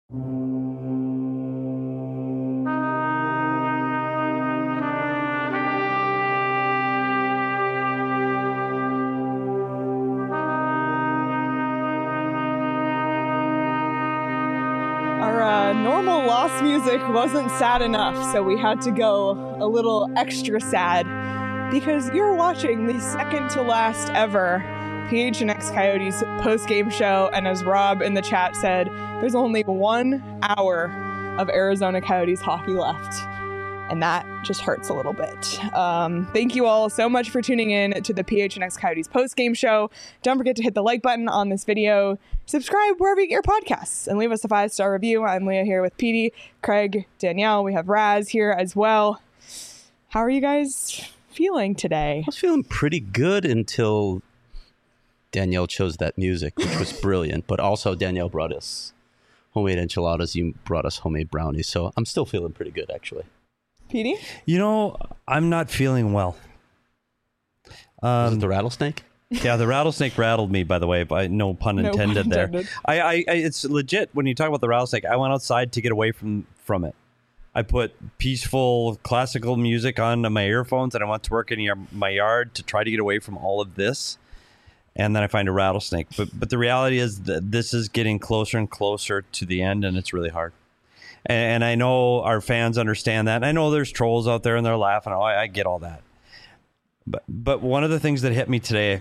Our normal lost music wasn't sad enough, so we had to go a little extra sad because you're watching the second to last ever PHNX Coyotes post-game show, and as Rob in the chat said, there's only 1 hour of Arizona Coyotes hockey left, and that just hurts a little bit. Thank you all so much for tuning in to the PHNX Coyotes post-game show. Don't forget to hit the like button on this video, subscribe wherever you get your podcasts, and leave us a 5-star review. I'm Leah here with Petey, Craig, Danielle. We have Raz here as well. How are you guys feeling today? I was feeling pretty good until Danielle chose that music, which was brilliant. But also Danielle brought us homemade enchiladas. You brought us homemade brownies. So I'm still feeling pretty good, actually. Petey? You know, I'm not feeling well. Was it the rattlesnake? Yeah, the rattlesnake rattled me, by the way, but no pun intended there. I it's legit. When you talk about the rattlesnake, I went outside to get away from it. I put peaceful classical music on my earphones, and I went to work in my yard to try to get away from all of this. And then I find a rattlesnake. But the reality is that this is getting closer and closer to the end, and it's really hard. And I know our fans understand that. And I know there's trolls out there, and they're laughing. Oh, I get all that. But one of the things that hit me today,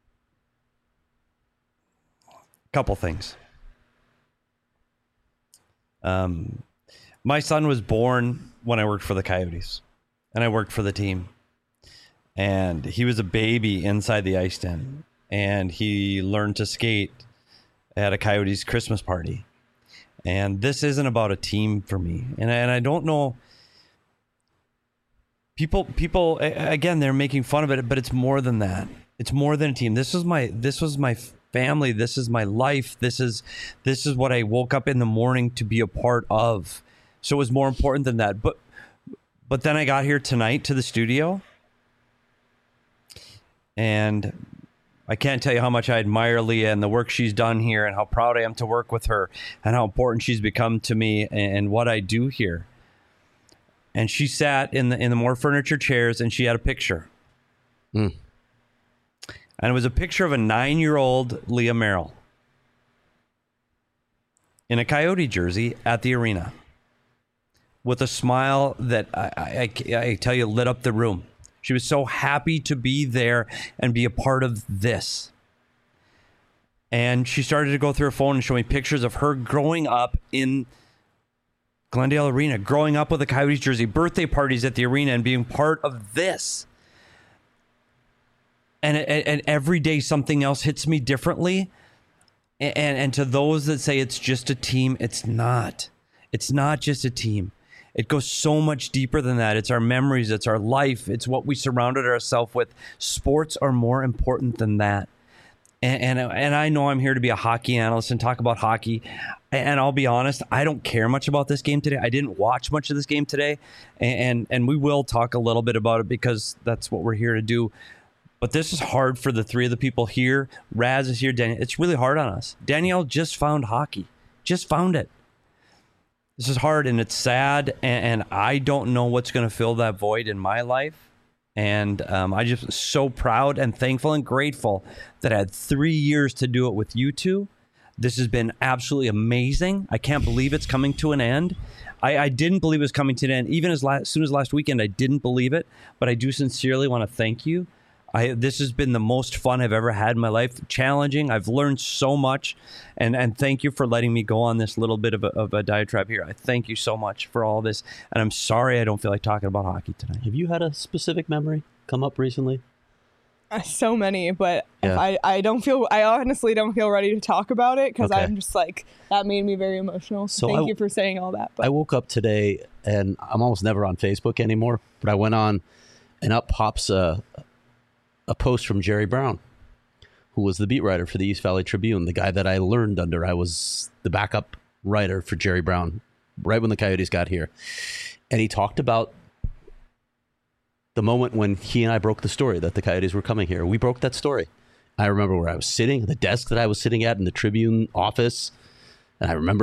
couple things. My son was born when I worked for the Coyotes, and I worked for the team. And he was a baby inside the ice den, and he learned to skate at a Coyotes Christmas party. And this isn't about a team for me. And I don't know. People again, they're making fun of it, but it's more than that. It's more than a team. This was my family. This is my life. This is what I woke up in the morning to be a part of. So it was more important than that. But then I got here tonight to the studio, and I can't tell you how much I admire Leah and the work she's done here, and how proud I am to work with her, and how important she's become to me and what I do here. And she sat in the more furniture chairs, and she had a picture. And it was a picture of a 9-year-old Leah Merrill in a Coyote jersey at the arena with a smile that I tell you lit up the room. She was so happy to be there and be a part of this. And she started to go through her phone and show me pictures of her growing up in Glendale Arena, growing up with a Coyotes jersey, birthday parties at the arena, and being part of this. And every day something else hits me differently. And to those that say it's just a team, it's not. It's not just a team. It goes so much deeper than that. It's our memories. It's our life. It's what we surrounded ourselves with. Sports are more important than that. And I know I'm here to be a hockey analyst and talk about hockey. And I'll be honest, I don't care much about this game today. I didn't watch much of this game today. And we will talk a little bit about it because that's what we're here to do. But this is hard for the three of the people here. Raz is here. Danielle. It's really hard on us. Danielle just found hockey. Just found it. This is hard, and it's sad, and I don't know what's going to fill that void in my life. And I just so proud and thankful and grateful that I had 3 years to do it with you two. This has been absolutely amazing. I can't believe it's coming to an end. I didn't believe it was coming to an end. Even as soon as last weekend, I didn't believe it. But I do sincerely want to thank you. This has been the most fun I've ever had in my life. Challenging. I've learned so much. And thank you for letting me go on this little bit of a diatribe here. I thank you so much for all this. And I'm sorry I don't feel like talking about hockey tonight. Have you had a specific memory come up recently? So many, but Yeah. I honestly don't feel ready to talk about it because Okay. I'm just like, that made me very emotional. So thank you for saying all that. But I woke up today, and I'm almost never on Facebook anymore, but I went on, and up pops a post from Jerry Brown, who was the beat writer for the East Valley Tribune, the guy that I learned under. I was the backup writer for Jerry Brown right when the Coyotes got here. And he talked about the moment when he and I broke the story that the Coyotes were coming here. We broke that story. I remember where I was sitting, the desk that I was sitting at in the Tribune office. And I remember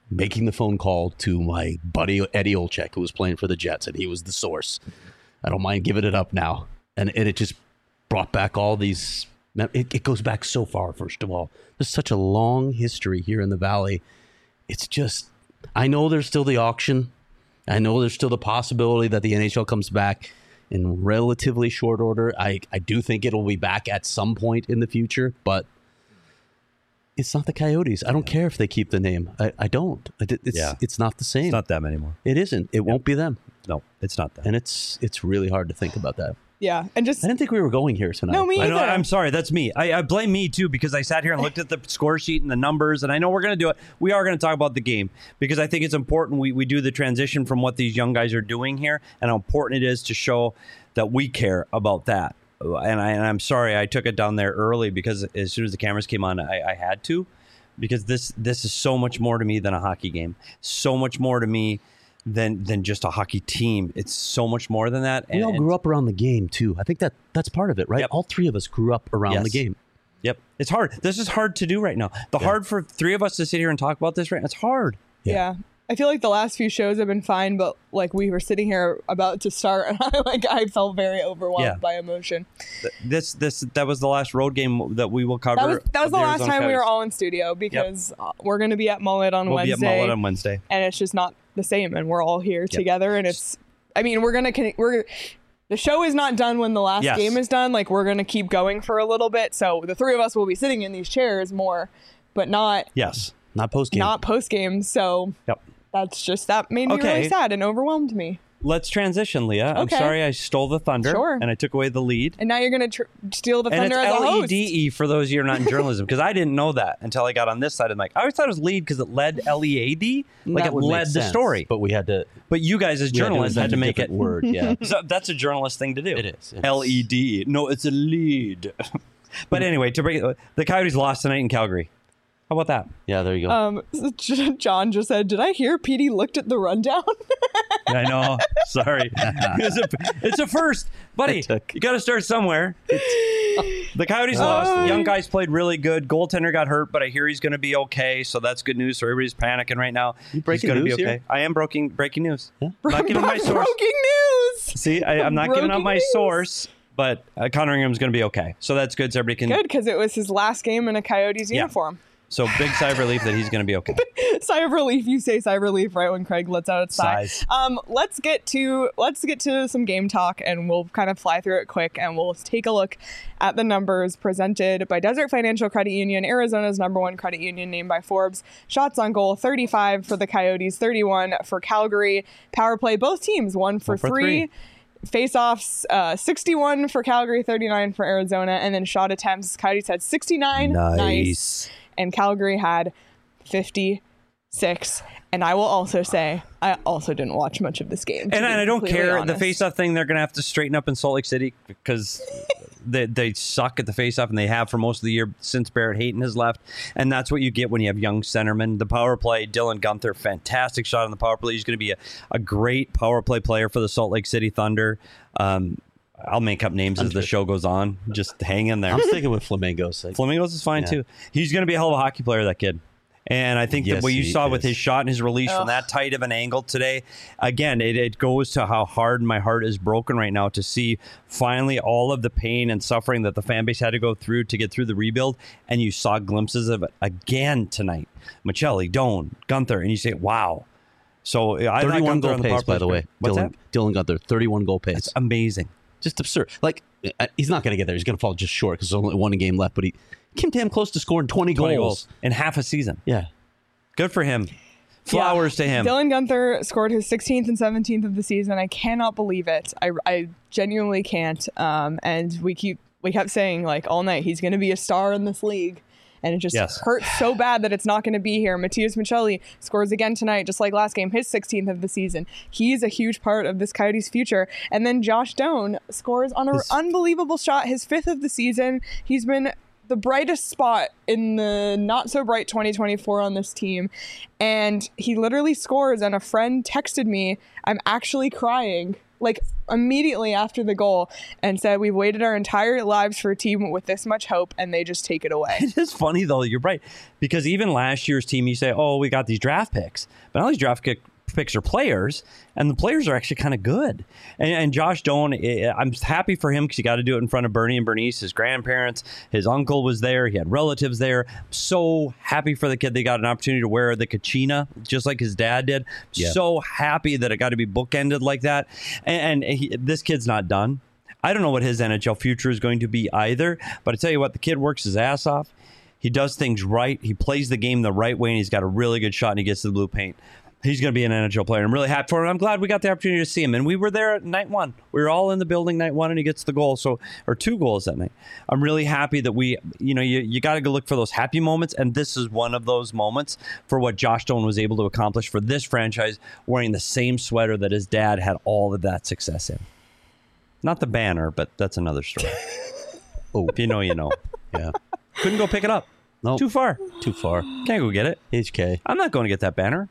making the phone call to my buddy Eddie Olczyk, who was playing for the Jets, and he was the source. I don't mind giving it up now. And it just brought back all these. It goes back so far, first of all. There's such a long history here in the Valley. It's just, I know there's still the auction. I know there's still the possibility that the NHL comes back in relatively short order. I do think it'll be back at some point in the future, but it's not the Coyotes. I don't care if they keep the name. I don't. It's not the same. It's not them anymore. It isn't. It won't be them. No, it's not them. And it's really hard to think about that. Yeah, and just I didn't think we were going here tonight. No, me I know, either. I'm sorry. That's me. I blame me, too, because I sat here and looked at the score sheet and the numbers, and I know we're going to do it. We are going to talk about the game because I think it's important we do the transition from what these young guys are doing here and how important it is to show that we care about that. And I'm sorry I took it down there early because as soon as the cameras came on, I had to, because this is so much more to me than a hockey game. So much more to me than just a hockey team. It's so much more than that. We all grew up around the game too. I think that's part of it, right? Yep. All three of us grew up around the game. Yep. It's hard. This is hard to do right now. Hard for three of us to sit here and talk about this right now. It's hard. Yeah. I feel like the last few shows have been fine, but like we were sitting here about to start and I felt very overwhelmed by emotion. That was the last road game that we will cover. That was the last time we were all in studio because we're going to be at Mullet on Wednesday. We'll be at Mullet on Wednesday. And it's just not the same, and we're all here together, and it's, I mean, the show is not done when the last game is done. Like, we're going to keep going for a little bit, so the three of us will be sitting in these chairs more, but not post-game. Not post-game, so that made me really sad and overwhelmed me. Let's transition, Leah. I'm sorry I stole the thunder and I took away the lead. And now you're going to steal the thunder as a host. And it's LEDE for those of you who are not in journalism, because I didn't know that until I got on this side. I'm like, I always thought it was lead because it led LEAD. Like it led the story. But we had to. But you guys as journalists had to make it. Word, yeah. So that's a journalist thing to do. It is. LED. No, it's a lead. But anyway, the Coyotes lost tonight in Calgary. How about that? Yeah, there you go. John just said, did I hear Petey looked at the rundown? I know. Sorry. It's a first. Buddy, you got to start somewhere. The Coyotes lost. Young guys played really good. Goaltender got hurt, but I hear he's going to be okay, so that's good news. So everybody's panicking right now. He's going to be okay. Here? I am breaking news. Yeah. I'm not giving my source. Breaking news! See, I'm not giving out my source. But Connor Ingram's going to be okay. So that's good. So everybody can... Good, because it was his last game in a Coyotes uniform. So big sigh of relief that he's going to be okay. Sigh of relief. You say sigh of relief right when Craig lets out its sigh. Let's get to some game talk, and we'll kind of fly through it quick, and we'll take a look at the numbers presented by Desert Financial Credit Union, Arizona's #1 credit union, named by Forbes. Shots on goal, 35 for the Coyotes, 31 for Calgary. Power play, both teams 1 for 3. Face-offs, 61 for Calgary, 39 for Arizona, and then shot attempts. Coyotes had 69. Nice. And Calgary had 56. And I will also say, I also didn't watch much of this game. And I don't care. Honest. The face-off thing, they're going to have to straighten up in Salt Lake City because they suck at the face-off, and they have for most of the year since Barrett Hayton has left. And that's what you get when you have young centermen. The power play, Dylan Guenther, fantastic shot on the power play. He's going to be a great power play player for the Salt Lake City Thunder. I'll make up names as the show goes on. Just hang in there. I'm sticking with Flamingos. Flamingos is fine too. He's going to be a hell of a hockey player, that kid. And I think that what you saw with his shot and his release from that tight of an angle today, again, it goes to how hard my heart is broken right now to see finally all of the pain and suffering that the fan base had to go through to get through the rebuild. And you saw glimpses of it again tonight. Machelli, Doan, Guenther, and you say, wow. So 31 goal pace, by the way. Dylan Guenther, 31 goal pace. That's amazing. Just absurd. Like, he's not going to get there. He's going to fall just short because there's only one game left. But he came damn close to scoring 20 goals in half a season. Yeah. Good for him. Flowers to him. Dylan Guenther scored his 16th and 17th of the season. I cannot believe it. I genuinely can't. And we kept saying, like, all night, he's going to be a star in this league. And it just hurts so bad that it's not going to be here. Matias Machelli scores again tonight, just like last game, his 16th of the season. He's a huge part of this Coyotes' future. And then Josh Doan scores on an unbelievable shot, his 5th of the season. He's been the brightest spot in the not-so-bright 2024 on this team. And he literally scores, and a friend texted me, I'm actually crying like immediately after the goal and said, we've waited our entire lives for a team with this much hope, and they just take it away. It is funny, though. You're right. Because even last year's team, you say, oh, we got these draft picks. But all these draft picks are players, and the players are actually kind of good. And Josh Doan, I'm happy for him because he got to do it in front of Bernie and Bernice, his grandparents. His uncle was there. He had relatives there. So happy for the kid. They got an opportunity to wear the kachina, just like his dad did. Yeah. So happy that it got to be bookended like that. And this kid's not done. I don't know what his NHL future is going to be either. But I tell you what, the kid works his ass off. He does things right. He plays the game the right way, and he's got a really good shot, and he gets to the blue paint. He's going to be an NHL player. I'm really happy for him. I'm glad we got the opportunity to see him. And we were there at night one. We were all in the building night one, and he gets the goal. Or 2 goals that night. I'm really happy that you got to go look for those happy moments. And this is one of those moments for what Josh Doan was able to accomplish for this franchise, wearing the same sweater that his dad had all of that success in. Not the banner, but that's another story. Oh, If you know, you know. yeah. Couldn't go pick it up. Nope. Too far. Too far. Can't go get it. HK. I'm not going to get that banner.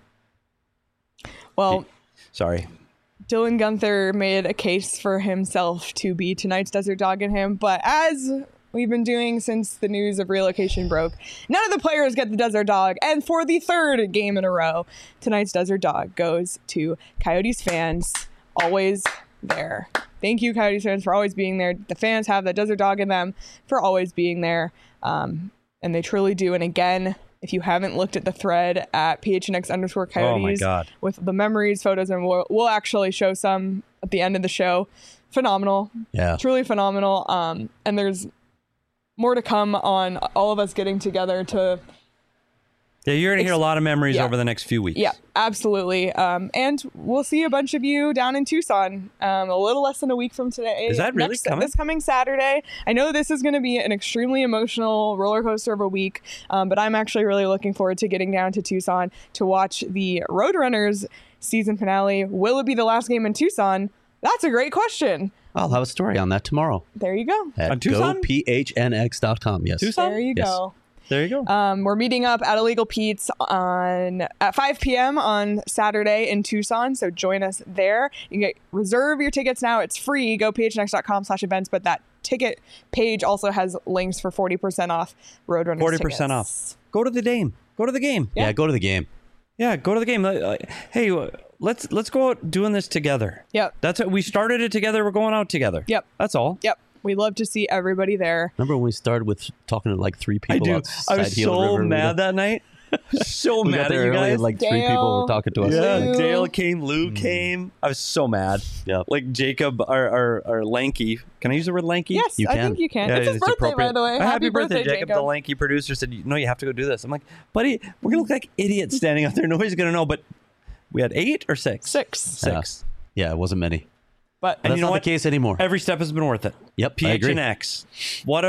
Well, Sorry. Dylan Guenther made a case for himself to be tonight's Desert Dog in him, but as we've been doing since the news of relocation broke, none of the players get the Desert Dog, and for the 3rd game in a row, tonight's Desert Dog goes to Coyotes fans, always there. Thank you, Coyotes fans, for always being there. The fans have that Desert Dog in them for always being there, and they truly do. And again, if you haven't looked at the thread at PHNX_Coyotes Oh my God. with the memories, photos, and we'll actually show some at the end of the show. Phenomenal. Yeah. Truly phenomenal. And there's more to come on all of us getting together to... Yeah, you're going to hear a lot of memories over the next few weeks. Yeah, absolutely. And we'll see a bunch of you down in Tucson a little less than a week from today. Is that really coming? This coming Saturday. I know this is going to be an extremely emotional roller coaster of a week, but I'm actually really looking forward to getting down to Tucson to watch the Roadrunners season finale. Will it be the last game in Tucson? That's a great question. I'll have a story on that tomorrow. There you go. At On Tucson? gophnx.com. Yes. Tucson? There you Yes. go. There you go. We're meeting up at Illegal Pete's at 5 p.m. on Saturday in Tucson, so join us there. You can reserve your tickets now. It's free. Go phnx.com/events, but that ticket page also has links for 40% off Roadrunners 40% tickets. off. Go to the game. Go to the game. Yeah, go to the game. Yeah, go to the game. Hey, let's go out doing this together. Yep. That's it. We started it together. We're going out together. Yep. That's all. Yep. We'd love to see everybody there. Remember when we started with talking to like 3 I people do. outside I was Gila so River? mad that night. So We mad got at there you early guys. and like 3 people Dale. were talking to us. Yeah, Lou. Dale came, Lou came. I was so mad. Yeah. Like Jacob, our lanky. Can I use the word lanky? Yes, You I can. think you can. Yeah, it's his birthday, appropriate. by the way. Happy birthday, Jacob. The lanky producer said, "No, you have to go do this." I'm like, "Buddy, we're gonna look like idiots standing out there. Nobody's gonna know." But we had 8 or 6. 6. 6. Yeah, it wasn't many. But That's you know not what? the case anymore. Every step has been worth it. Yep, I agree. PHNX. What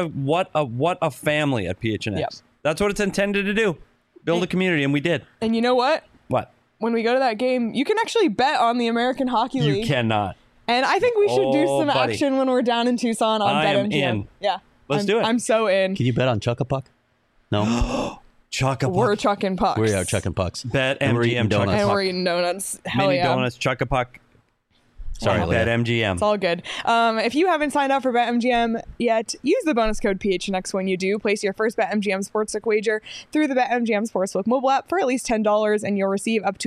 a family at PHNX. Yep. That's what it's intended to do. Build a community, and we did. and you know what? What? When we go to that game, you can actually bet on the American Hockey League. You cannot. And I think we should do Oh, some buddy. action when we're down in Tucson on I am BetMGM. in. Yeah. Let's do it. I'm so in. Can you bet on Chuck-a-Puck? No. Chuck-a-puck. We're chucking pucks. We are chucking pucks. Bet And we're MGM eating donuts. And Chuck-a-puck. we're eating donuts. Hell Mini yeah. donuts, Chuck-a-puck. Sorry, Wow. Leah. Bet MGM. It's all good. If you haven't signed up for BetMGM yet, use the bonus code PHNX when you do. Place your first BetMGM Sportsbook wager through the BetMGM Sportsbook mobile app for at least $10, and you'll receive up to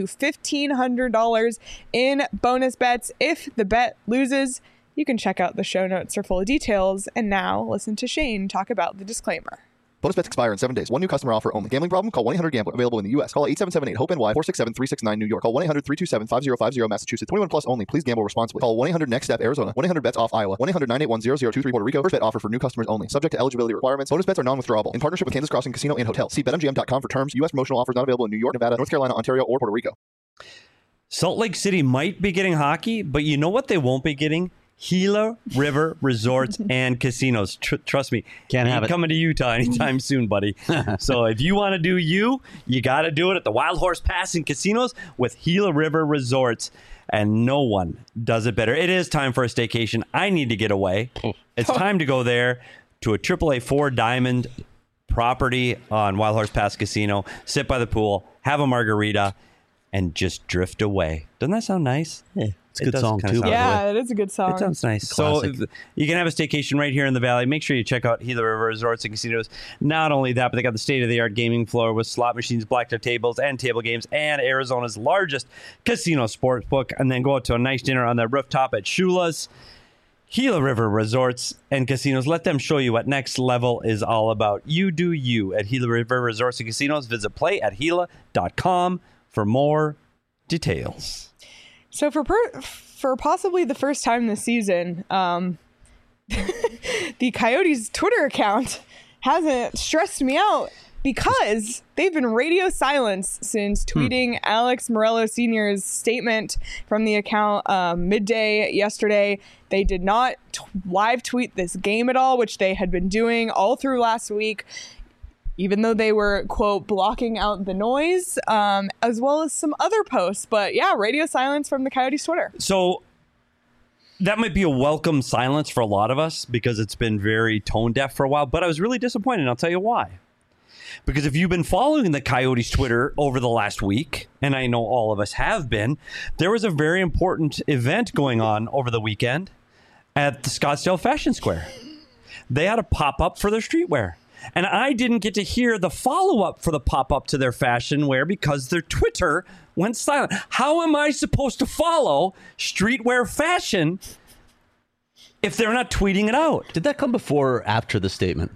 $1,500 in bonus bets. If the bet loses, you can check out the show notes for full details. And now, listen to Shane talk about the disclaimer. Bonus bets expire in 7 days. One new customer offer only. Gambling problem? Call 1-800-GAMBLER. Available in the U.S. Call 877-8-HOPE-NY 467-369 New York. Call 1-800-327-5050 Massachusetts. 21 plus only. Please gamble responsibly. Call 1-800-NEXT-STEP Arizona. 1-800-BETS-OFF Iowa. 1-800-981-0023 Puerto Rico. First bet offer for new customers only. Subject to eligibility requirements. Bonus bets are non-withdrawable. In partnership with Kansas Crossing Casino and Hotel. See BetMGM.com for terms. U.S. promotional offers not available in New York, Nevada, North Carolina, Ontario, or Puerto Rico. Salt Lake City might be getting hockey, but you know what they won't be getting? Gila River Resorts and Casinos. Trust me. Can't have Ain't it. coming to Utah anytime soon, buddy. So if you want to do you got to do it at the Wild Horse Pass and Casinos with Gila River Resorts. And no one does it better. It is time for a staycation. I need to get away. It's time to go there to a AAA 4-diamond property on Wild Horse Pass Casino, sit by the pool, have a margarita, and just drift away. Doesn't that sound nice? Yeah. It's a good does song, kinda too, sound by the way. Yeah, it is a good song. It sounds nice. Classic. So you can have a staycation right here in the Valley. Make sure you check out Gila River Resorts and Casinos. Not only that, but they got the state-of-the-art gaming floor with slot machines, blackjack tables, and table games, and Arizona's largest casino sports book. And then go out to a nice dinner on the rooftop at Shula's. Gila River Resorts and Casinos. Let them show you what next level is all about. You do you at Gila River Resorts and Casinos. Visit playatgila.com for more details. So for possibly the first time this season, the Coyotes Twitter account hasn't stressed me out because they've been radio silence since tweeting Alex Morello Sr.'s statement from the account midday yesterday. They did not live tweet this game at all, which they had been doing all through last week, even though they were, quote, blocking out the noise, as well as some other posts. But yeah, radio silence from the Coyotes Twitter. So that might be a welcome silence for a lot of us because it's been very tone deaf for a while, but I was really disappointed, and I'll tell you why. Because if you've been following the Coyotes Twitter over the last week, and I know all of us have been, there was a very important event going on over the weekend at the Scottsdale Fashion Square. They had a pop-up for their streetwear. And I didn't get to hear the follow-up for the pop-up to their fashion wear because their Twitter went silent. How am I supposed to follow streetwear fashion if they're not tweeting it out? Did that come before or after the statement?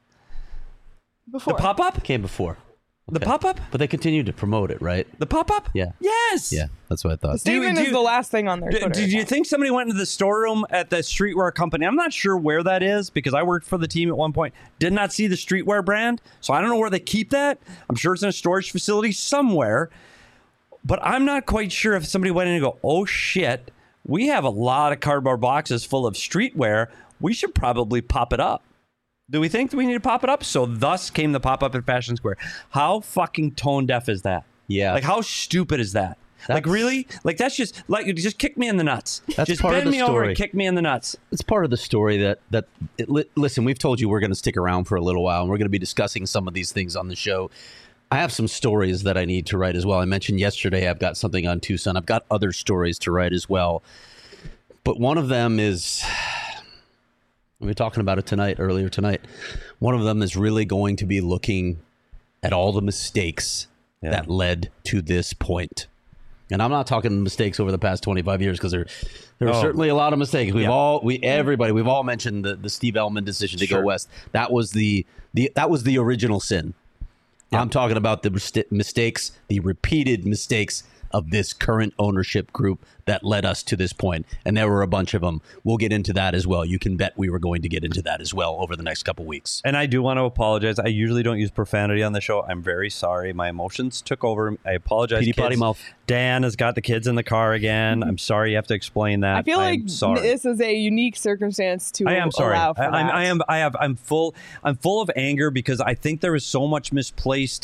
Before. The pop-up? It came before. The Okay. pop-up? But they continued to promote it, right? The pop-up? Yeah. Yes. Yeah, that's what I thought. The statement Do- is the last thing on their Twitter Did you account. think somebody went into the storeroom at the streetwear company? I'm not sure where that is because I worked for the team at one point. Did not see the streetwear brand, so I don't know where they keep that. I'm sure it's in a storage facility somewhere, but I'm not quite sure if somebody went in and go, oh shit, we have a lot of cardboard boxes full of streetwear. We should probably pop it up. Do we think that we need to pop it up? So thus came the pop-up at Fashion Square. How fucking tone deaf is that? Yeah. Like how stupid is that? Like really? Like that's just kick me in the nuts. That's just part of bend the me over story. and kick me in the nuts. It's part of the story listen, we've told you we're going to stick around for a little while, and we're going to be discussing some of these things on the show. I have some stories that I need to write as well. I mentioned yesterday I've got something on Tucson. I've got other stories to write as well. But one of them is, we were talking about it earlier tonight. One of them is really going to be looking at all the mistakes that led to this point. And I'm not talking mistakes over the past 25 years because there were certainly a lot of mistakes. We've all mentioned the Steve Ellman decision to go west. That was the original sin. I'm talking about the mistakes, the repeated mistakes of this current ownership group that led us to this point. And there were a bunch of them. We'll get into that as well. You can bet we were going to get into that as well over the next couple weeks. And I do want to apologize. I usually don't use profanity on the show. I'm very sorry. My emotions took over. I apologize. Petey potty mouth. Dan has got the kids in the car again. I'm sorry you have to explain that. I feel like sorry. this is a unique circumstance to I am sorry. allow for that. I'm full of anger because I think there is so much misplaced.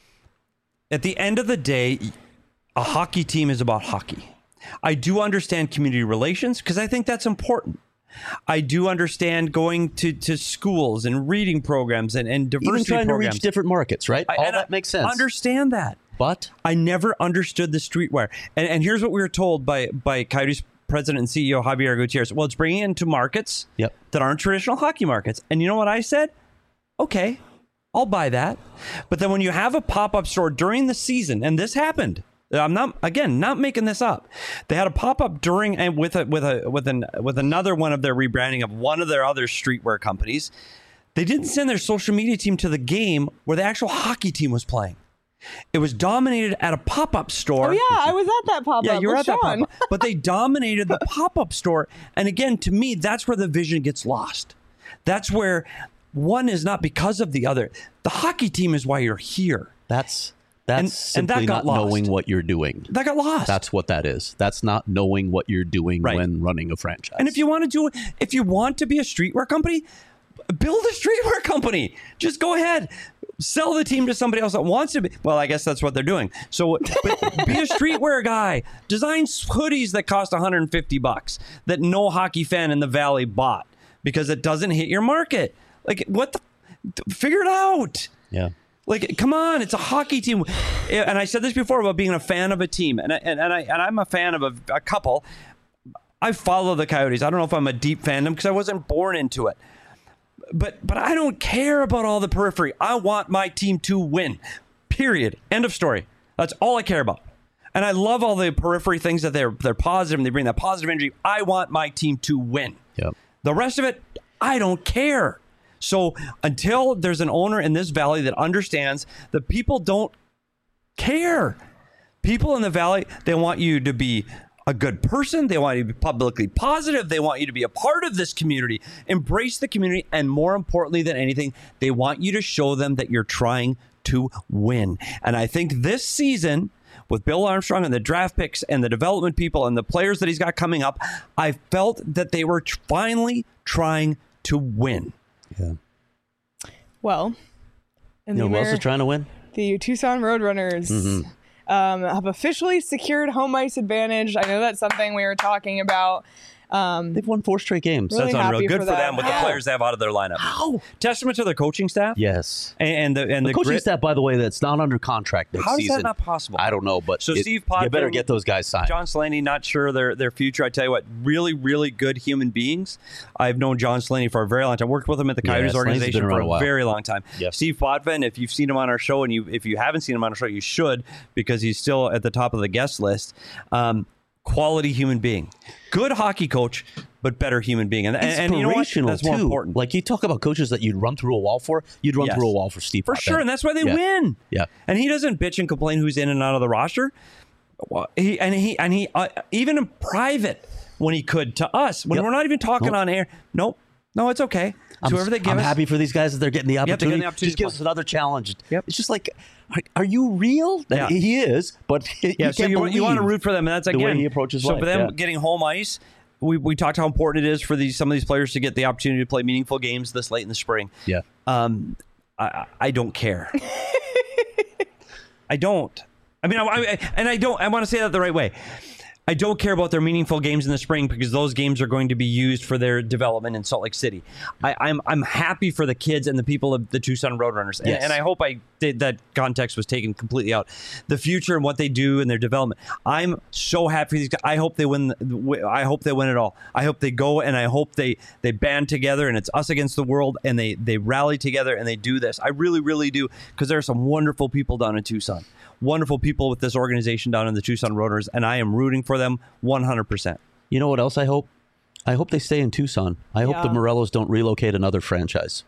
At the end of the day, a hockey team is about hockey. I do understand community relations because I think that's important. I do understand going to schools and reading programs and diversity Even trying programs. to reach different markets, right? All that makes sense. Understand that. But I never understood the streetwear. And here's what we were told by Coyotes president and CEO Javier Gutierrez. Well, it's bringing it into markets that aren't traditional hockey markets. And you know what I said? Okay, I'll buy that. But then when you have a pop-up store during the season, and this happened, I'm not making this up. They had a pop-up during and with another one of their rebranding of one of their other streetwear companies. They didn't send their social media team to the game where the actual hockey team was playing. It was dominated at a pop-up store. Oh yeah, I was at that pop-up. Yeah, you were at that Sean. pop-up. But they dominated the pop-up store. And again, to me, that's where the vision gets lost. That's where one is not because of the other. The hockey team is why you're here. That's and simply that got not lost. knowing what you're doing. That got lost. That's what that is. That's not knowing what you're doing when running a franchise. And if you want to be a streetwear company, build a streetwear company. Just go ahead. Sell the team to somebody else that wants to be. Well, I guess that's what they're doing. So but be a streetwear guy. Design hoodies that cost $150 that no hockey fan in the Valley bought because it doesn't hit your market. Like, what the? Figure it out. Yeah. Like, come on, it's a hockey team. And I said this before about being a fan of a team. And I'm a fan of a couple. I follow the Coyotes. I don't know if I'm a deep fandom because I wasn't born into it. But I don't care about all the periphery. I want my team to win. Period. End of story. That's all I care about. And I love all the periphery things that they're positive and they bring that positive energy. I want my team to win. Yep. The rest of it, I don't care. So until there's an owner in this valley that understands that people don't care. People in the valley, they want you to be a good person. They want you to be publicly positive. They want you to be a part of this community. Embrace the community. And more importantly than anything, they want you to show them that you're trying to win. And I think this season, with Bill Armstrong and the draft picks and the development people and the players that he's got coming up, I felt that they were finally trying to win. Yeah. Well, and You know who else is trying to win? the Tucson Roadrunners have officially secured home ice advantage. I know that's something we were talking about. They've won 4 straight games. Really That's unreal. happy Good for for them them. with the How? players they have out of their lineup. How? Testament to their coaching staff. Yes. And the The coaching grit. staff, by the way, that's not under contract next How is season. that not possible? I don't know, but So Steve you Potvin, better get those guys signed. John Slaney, not sure their future. I tell you what, really, really good human beings. I've known John Slaney for a very long time. Worked with him at the Yeah, Coyotes Slaney's organization been for around a a while. very long time. Yep. Steve Potvin, if you've seen him on our show, and if you haven't seen him on our show, you should, because he's still at the top of the guest list. Quality human being, good hockey coach, but better human being. And you know what? Inspirational, That's more too. important. Like, you talk about coaches that you'd run through a wall for. You'd run Yes. through a wall for Steve For Potvin. sure, and that's why they Yeah. win. Yeah. And he doesn't bitch and complain who's in and out of the roster. Well, he even in private when he could to us when Yep. we're not even talking Nope. on air. No, it's okay. It's whoever they give I'm us. happy for these guys that they're getting the they're getting opportunity. the opportunity Just give to us another challenge. Yep. It's just like, are you real? Yeah. He is, but Yeah, so you want to root for them, and that's the again way he approaches so life, for them yeah. getting home ice. We talked how important it is for some of these players to get the opportunity to play meaningful games this late in the spring. Yeah. I don't care. I don't. I mean, I don't. I want to say that the right way. I don't care about their meaningful games in the spring because those games are going to be used for their development in Salt Lake City. I'm happy for the kids and the people of the Tucson Roadrunners, Yes. and I hope that context was taken completely out. The future and what they do and their development. I'm so happy for these guys. I hope they win. I hope they win it all. I hope they go, and I hope they band together and it's us against the world, and they rally together and they do this. I really, really do, because there are some wonderful people down in Tucson. Wonderful people with this organization down in the Tucson Roadrunners, and I am rooting for them 100%. You know what else I hope? I hope they stay in Tucson. I hope the Yeah. Morellos don't relocate another franchise.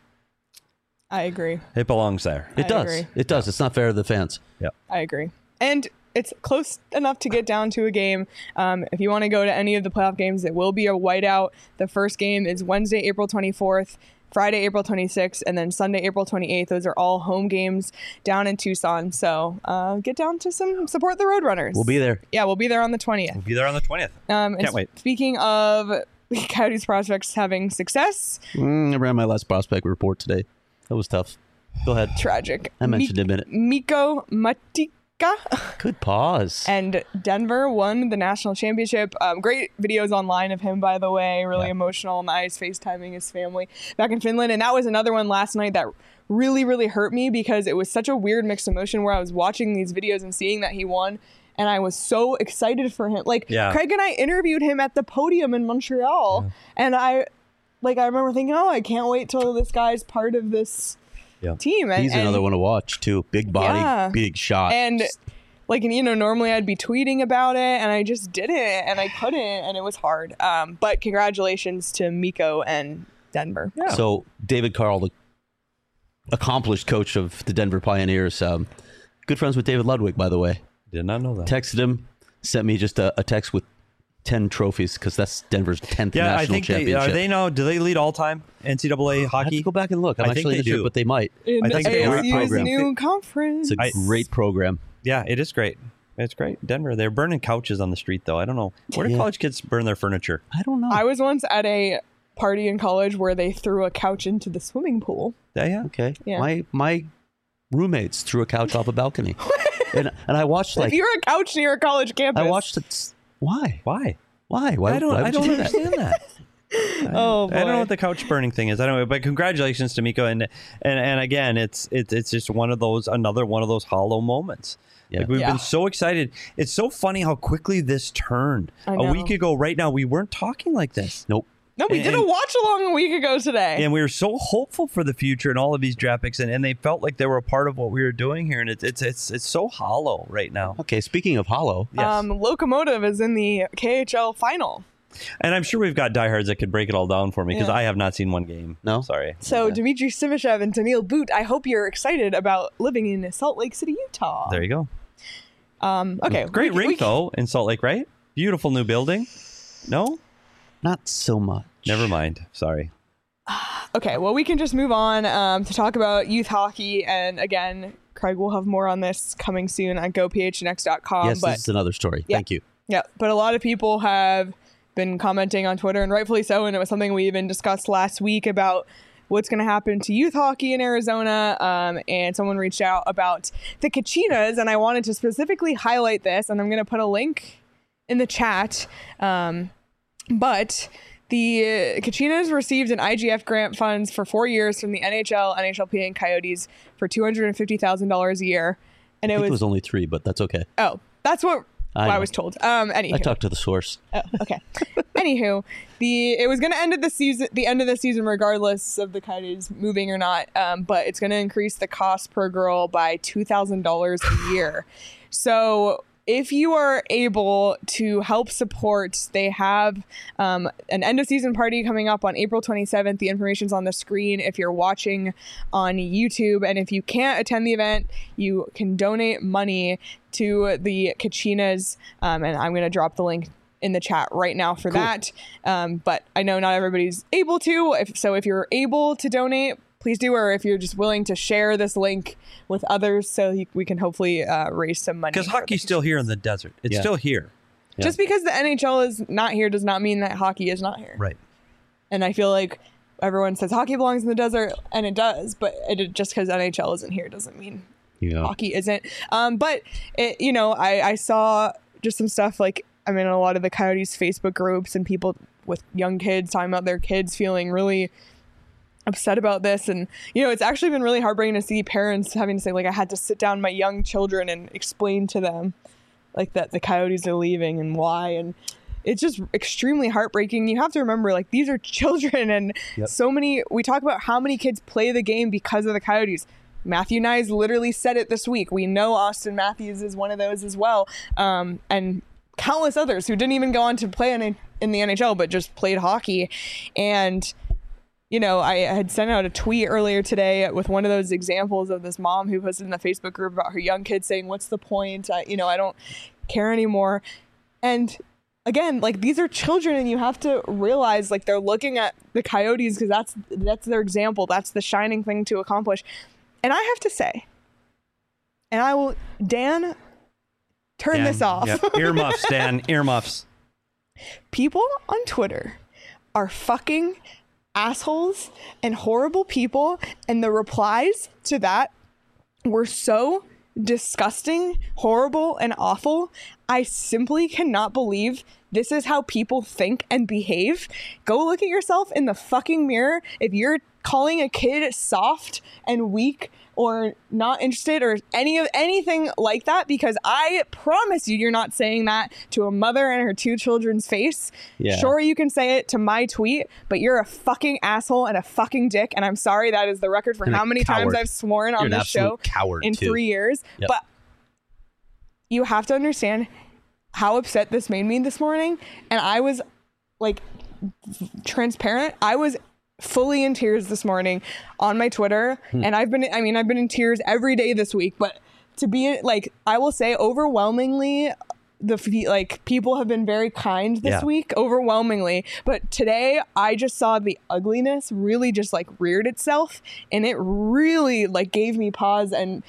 I agree. It belongs there. It I does. agree. It does. It's not fair to the fans. Yeah. I agree. And it's close enough to get down to a game. If you want to go to any of the playoff games, it will be a whiteout. The first game is Wednesday, April 24th, Friday, April 26th, and then Sunday, April 28th. Those are all home games down in Tucson. So get down to support the Roadrunners. We'll be there. Yeah, we'll be there on the 20th. We'll be there on the 20th. And Can't wait. Speaking of Coyotes prospects having success, I ran my last prospect report today. That was tough. Go ahead. tragic. I mentioned him in it. Mikko Matika Good pause. and Denver won the national championship. Great videos online of him, by the way. Really emotional on the ice, FaceTiming his family back in Finland. And that was another one last night that really, really hurt me because it was such a weird mixed emotion where I was watching these videos and seeing that he won. And I was so excited for him. Like, Yeah. Craig and I interviewed him at the podium in Montreal. And I remember thinking, oh, I can't wait till this guy's part of this team. And, He's another one to watch, too. Big body, Yeah. big shot. And normally I'd be tweeting about it, and I just didn't, and I couldn't, and it was hard. But congratulations to Mikko and Denver. Yeah. So David Carl, the accomplished coach of the Denver Pioneers, good friends with David Ludwig, by the way. Did not know that. Texted him, sent me just a text with 10 trophies because that's Denver's 10th Yeah, national I think championship. are they now? Do they lead all time NCAA I have hockey? to go back and look. I'm I think actually they not sure, do. but they might. In I think the it's a great ASU's program. new conference. It's a great program. Yeah, it is great. It's great. Denver, they're burning couches on the street, though. I don't know. Where do Yeah. college kids burn their furniture? I don't know. I was once at a party in college where they threw a couch into the swimming pool. Yeah. Okay. Yeah. My roommates threw a couch off a balcony. and I watched If you're a couch near a college campus, I watched it. Why? Why? Why? I don't would you do that? understand that. Oh, boy. I don't know what the couch burning thing is. I don't know, but congratulations to Mikko, and again, it's just another one of those hollow moments. Yeah. Like we've Yeah. been so excited. It's so funny how quickly this turned. I A know. week ago, right now, we weren't talking like this. Nope. No, we did a And- watch along a week ago today. And we were so hopeful for the future and all of these draft picks, and they felt like they were a part of what we were doing here. And it's so hollow right now. Okay, speaking of hollow, Yes. Locomotive is in the KHL final. And I'm sure we've got diehards that could break it all down for me because Yeah. I have not seen one game. No? Sorry. So Dmitry Sivishev and Daniil Boot, I hope you're excited about living in Salt Lake City, Utah. There you go. Okay. Great we- rink we- though in Salt Lake, right? Beautiful new building. No, not so much. never mind. Sorry. Okay, well, we can just move on to talk about youth hockey. And again, Craig will have more on this coming soon on gophnx.com. Yes, but this is another story. Yeah. Thank you. yeah, but a lot of people have been commenting on Twitter, and rightfully so. And it was something we even discussed last week about what's going to happen to youth hockey in Arizona. And someone reached out about the Kachinas, and I wanted to specifically highlight this, and I'm going to put a link in the chat. But the Kachinas received an IGF grant funds for 4 years from the NHL, NHLPA, and Coyotes for $250,000 a year. And I it think it was, was only 3, but that's okay. that's what I I know. was told. Anywho. I talked to the source. Oh, okay. Anywho, it was going to end at the end of the season, regardless of the Coyotes moving or not. But it's going to increase the cost per girl by $2,000 a year. So if you are able to help support, they have an end of season party coming up on April 27th. The information's on the screen if you're watching on YouTube. And if you can't attend the event, you can donate money to the Kachinas. And I'm going to drop the link in the chat right now for that. But I know not everybody's able to. If you're able to donate, please do, or if you're just willing to share this link with others so we can hopefully raise some money. Because for hockey's the- still here in the desert. It's Yeah. still here. Just because the NHL is not here does not mean that hockey is not here. Right. And I feel like everyone says hockey belongs in the desert, and it does, but just because NHL isn't here doesn't mean Yeah. hockey isn't. But I saw just some stuff like I'm in a lot of the Coyotes Facebook groups and people with young kids talking about their kids feeling really upset about this. And it's actually been really heartbreaking to see parents having to say, like, I had to sit down my young children and explain to them like that the Coyotes are leaving and why. And it's just extremely heartbreaking. You have to remember, like, these are children, and we talk about how many kids play the game because of the Coyotes. Matthew Nyes literally said it this week. We know Austin Matthews is one of those as well. And countless others who didn't even go on to play in the NHL, but just played hockey. And I had sent out a tweet earlier today with one of those examples of this mom who posted in the Facebook group about her young kids saying, what's the point? I don't care anymore. And again, like, these are children, and you have to realize, like, they're looking at the Coyotes because that's their example. That's the shining thing to accomplish. And I have to say, and I will, Dan, turn this off. Yep. Earmuffs, Dan. Earmuffs. People on Twitter are fucking assholes and horrible people, and the replies to that were so disgusting, horrible, and awful. I simply cannot believe this is how people think and behave. Go look at yourself in the fucking mirror. If you're calling a kid soft and weak or not interested or anything like that, because I promise you're not saying that to a mother and her 2 children's face. Yeah. Sure, you can say it to my tweet, but you're a fucking asshole and a fucking dick, and I'm sorry, that is the record for And a how many times coward. I've sworn You're on an this show absolute coward, in too. 3 years. Yep. But you have to understand how upset this made me this morning, and I was, like, transparent. I was fully in tears this morning on my Twitter, and I've been in tears every day this week, but to be, like, I will say overwhelmingly people have been very kind this week, overwhelmingly, but today I just saw the ugliness really just, like, reared itself, and it really, like, gave me pause, and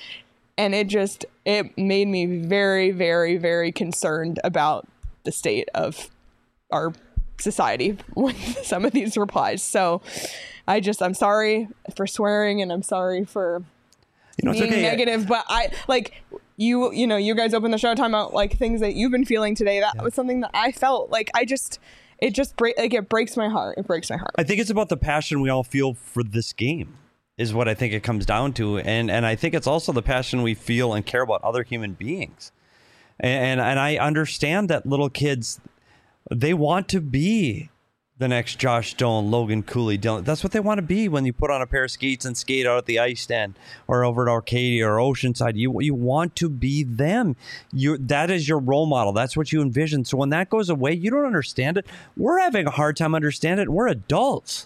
it made me very, very, very concerned about the state of our society with some of these replies. So I'm sorry for swearing, and I'm sorry for It's being okay. negative, but I, like, you guys opened the show talking about, like, things that you've been feeling today. That was something that I felt like it breaks my heart. It breaks my heart. I think it's about the passion we all feel for this game. is what I think it comes down to. And I think it's also the passion we feel and care about other human beings. And I understand that little kids, they want to be the next Josh Stone, Logan Cooley, Dylan. That's what they want to be when you put on a pair of skates and skate out at the ice stand or over at Arcadia or Oceanside. You want to be them. That is your role model. That's what you envision. So when that goes away, you don't understand it. We're having a hard time understanding it. We're adults.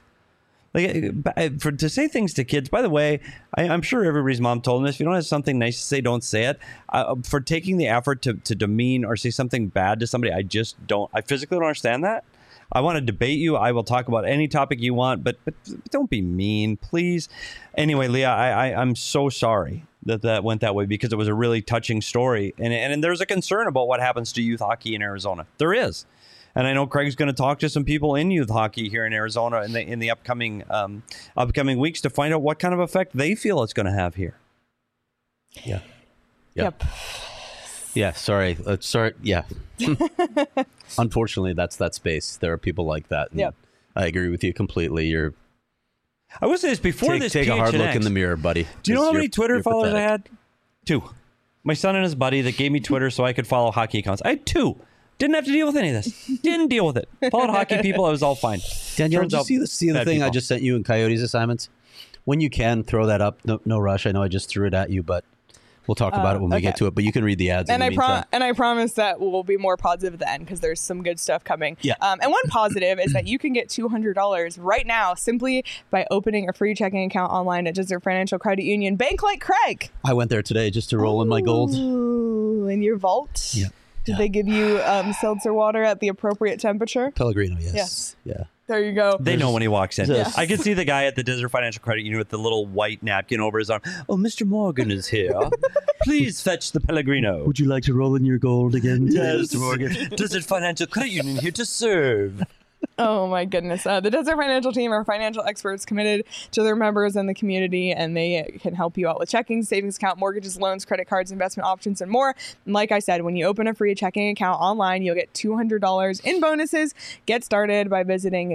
To say things to kids, by the way, I'm sure everybody's mom told them this. If you don't have something nice to say, don't say it. For taking the effort to demean or say something bad to somebody, I physically don't understand that. I want to debate you. I will talk about any topic you want, but don't be mean, please. Anyway, Leah, I'm so sorry that went that way because it was a really touching story. And there's a concern about what happens to youth hockey in Arizona. There is. And I know Craig's going to talk to some people in youth hockey here in Arizona in the upcoming weeks to find out what kind of effect they feel it's going to have here. Yeah. Yep. Yeah. Sorry. Yeah. Unfortunately, that's that space. There are people like that. Yep. I agree with you completely. I will say this before this. Take a hard look in the mirror, buddy. Do you know how many Twitter followers I had? 2. My son and his buddy that gave me Twitter so I could follow hockey accounts. I had 2. Didn't have to deal with any of this. Didn't deal with it. Followed hockey people. It was all fine. Danielle, did you see the thing I just sent you in Coyotes assignments? When you can, throw that up. No rush. I know I just threw it at you, but we'll talk about it when we get to it. But you can read the ads. And I promise that we'll be more positive at the end because there's some good stuff coming. Yeah. And one positive is that you can get $200 right now simply by opening a free checking account online at Desert Financial Credit Union. Bank like Craig. I went there today just to roll in my gold. Ooh, in your vault. Yeah. Did they give you seltzer water at the appropriate temperature? Pellegrino, yes. Yes. Yeah. There you go. They know when he walks in. Yes. I can see the guy at the Desert Financial Credit Union with the little white napkin over his arm. Oh, Mr. Morgan is here. Please fetch the Pellegrino. Would you like to roll in your gold again, Yes. Mr. Morgan? Desert Financial Credit Union here to serve. Oh my goodness. The Desert Financial team are financial experts committed to their members and the community, and they can help you out with checking, savings account, mortgages, loans, credit cards, investment options, and more. And like I said, when you open a free checking account online, you'll get $200 in bonuses. Get started by visiting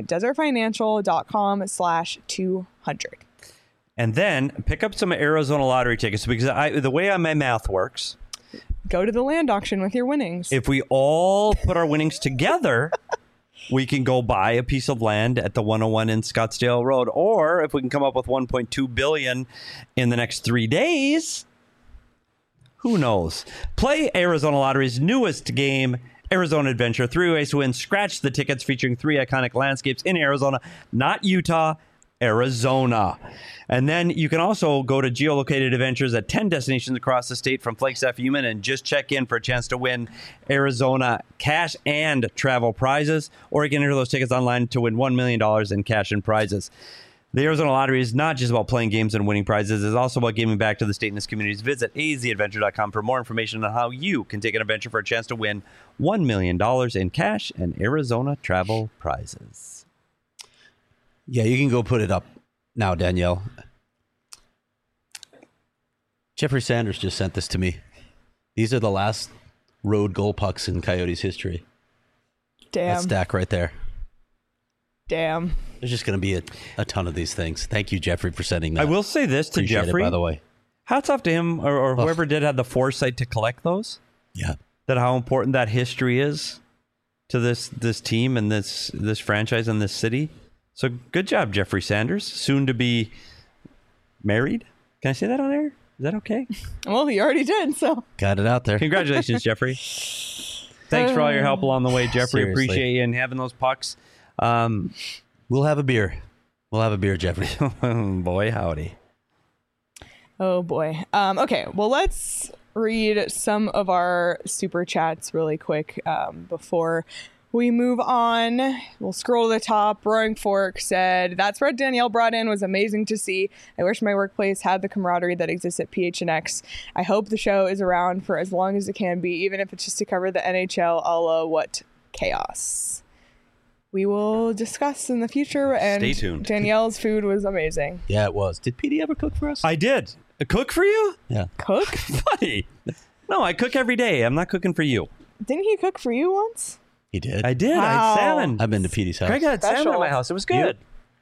desertfinancial.com/200. And then pick up some Arizona lottery tickets because the way my math works, go to the land auction with your winnings. if we all put our winnings together, we can go buy a piece of land at the 101 in Scottsdale Road. Or if we can come up with $1.2 billion in the next 3 days, who knows? Play Arizona Lottery's newest game, Arizona Adventure. 3 ways to win. Scratch the tickets featuring 3 iconic landscapes in Arizona, not Utah, Arizona. And then you can also go to geolocated adventures at 10 destinations across the state from Flagstaff, Human, and just check in for a chance to win Arizona cash and travel prizes. Or you can enter those tickets online to win $1 million in cash and prizes. The Arizona Lottery is not just about playing games and winning prizes. It's also about giving back to the state and its communities. Visit azadventure.com for more information on how you can take an adventure for a chance to win $1 million in cash and Arizona travel prizes. Yeah, you can go put it up now, Danielle. Jeffrey Sanders just sent this to me. These are the last road goal pucks in Coyotes history. Damn. That stack right there. Damn. There's just going to be a ton of these things. Thank you, Jeffrey, for sending that. I will say this to Appreciate Jeffrey. it, by the way. Hats off to him or whoever did have the foresight to collect those. Yeah. That how important that history is to this team and this franchise and this city. So good job, Jeffrey Sanders. Soon to be married. Can I say that on air? Is that okay? Well, he already did, so. Got it out there. Congratulations, Jeffrey. Thanks for all your help along the way, Jeffrey. Seriously. Appreciate you and having those pucks. We'll have a beer. We'll have a beer, Jeffrey. Boy, howdy. Oh boy. Okay, well, let's read some of our super chats really quick before we move on. We'll scroll to the top. Roaring Fork said, "That spread Danielle brought in was amazing to see. I wish my workplace had the camaraderie that exists at PHNX. I hope the show is around for as long as it can be, even if it's just to cover the NHL a la What Chaos. We will discuss in the future, and Stay tuned. Danielle's food was amazing. Yeah, it was. Did PD ever cook for us? I did. Cook for you? Yeah. Cook? Buddy. No, I cook every day. I'm not cooking for you. Didn't he cook for you once? He did. I did. I Wow. had salmon. I've been to PD's house. Craig had salmon Special. at my house. It was good. No.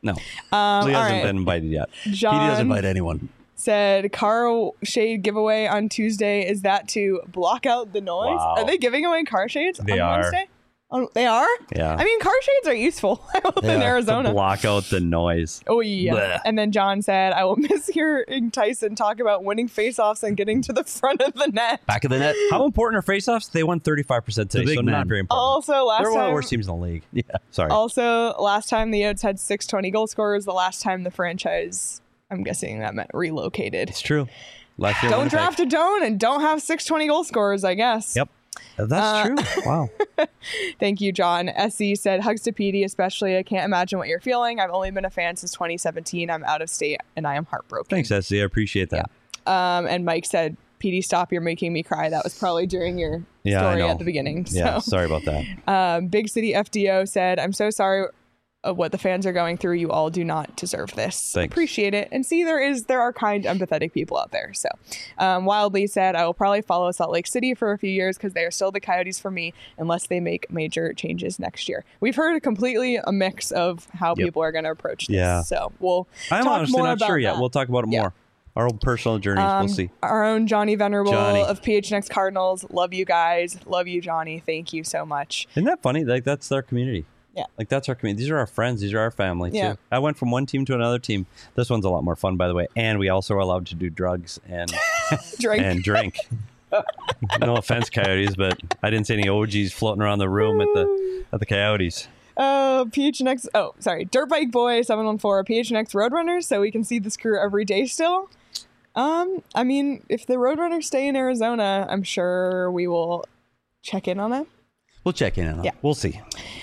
No. All He hasn't right. been invited yet. John He doesn't invite anyone. said car shade giveaway on Tuesday. Is that to block out the noise? Wow. Are they giving away car shades They on are. Wednesday? Oh, they are? Yeah. I mean, car shades are useful They in are. Arizona. Block out the noise. Oh, yeah. Blech. And then John said, I will miss hearing Tyson talk about winning faceoffs and getting to the front of the net. Back of the net. How important are faceoffs? They won 35% today, big so man. not very important. Also, They're last one of the time, worst teams in the league. Yeah. Sorry. also, last time the Oats had 620 goal scorers. The last time the franchise, I'm guessing that meant relocated. It's true. Last year, Don't Winnipeg. draft a Doan and don't have 620 goal scorers, I guess. Yep. That's true. Wow. Thank you, John. SC said, hugs to Petey, especially. I can't imagine what you're feeling. I've only been a fan since 2017. I'm out of state and I am heartbroken. Thanks, SC. I appreciate that. And Mike said, Petey, stop. You're making me cry. That was probably during your Yeah, I story know. at the beginning. Yeah. So. Sorry about that. Big City FDO said, I'm so sorry of what the fans are going through. You all do not deserve this. Thanks. Appreciate it. And see, there are kind, empathetic people out there. So Wildly said, I will probably follow Salt Lake City for a few years because they are still the Coyotes for me unless they make major changes next year. We've heard a mix of how people are going to approach this. Yeah. So we'll I'm talk honestly more not about sure yet. that. We'll talk about it Yeah. more. Our own personal journeys. We'll see. Our own Johnny Venerable Johnny. of PHNX Cardinals. Love you guys. Love you, Johnny. Thank you so much. Isn't that funny? Like, that's our community. Yeah. Like, that's our community. These are our friends. These are our family, too. Yeah. I went from one team to another team. This one's a lot more fun, by the way. And we also are allowed to do drugs and Drink. and drink. No offense, Coyotes, but I didn't see any OGs floating around the room at the Coyotes. PHNX. Oh, sorry. Dirt Bike Boy 714. PHNX Roadrunners, so we can see this crew every day still. I mean, if the Roadrunners stay in Arizona, I'm sure we will check in on them. We'll check in on it. Yeah. We'll see.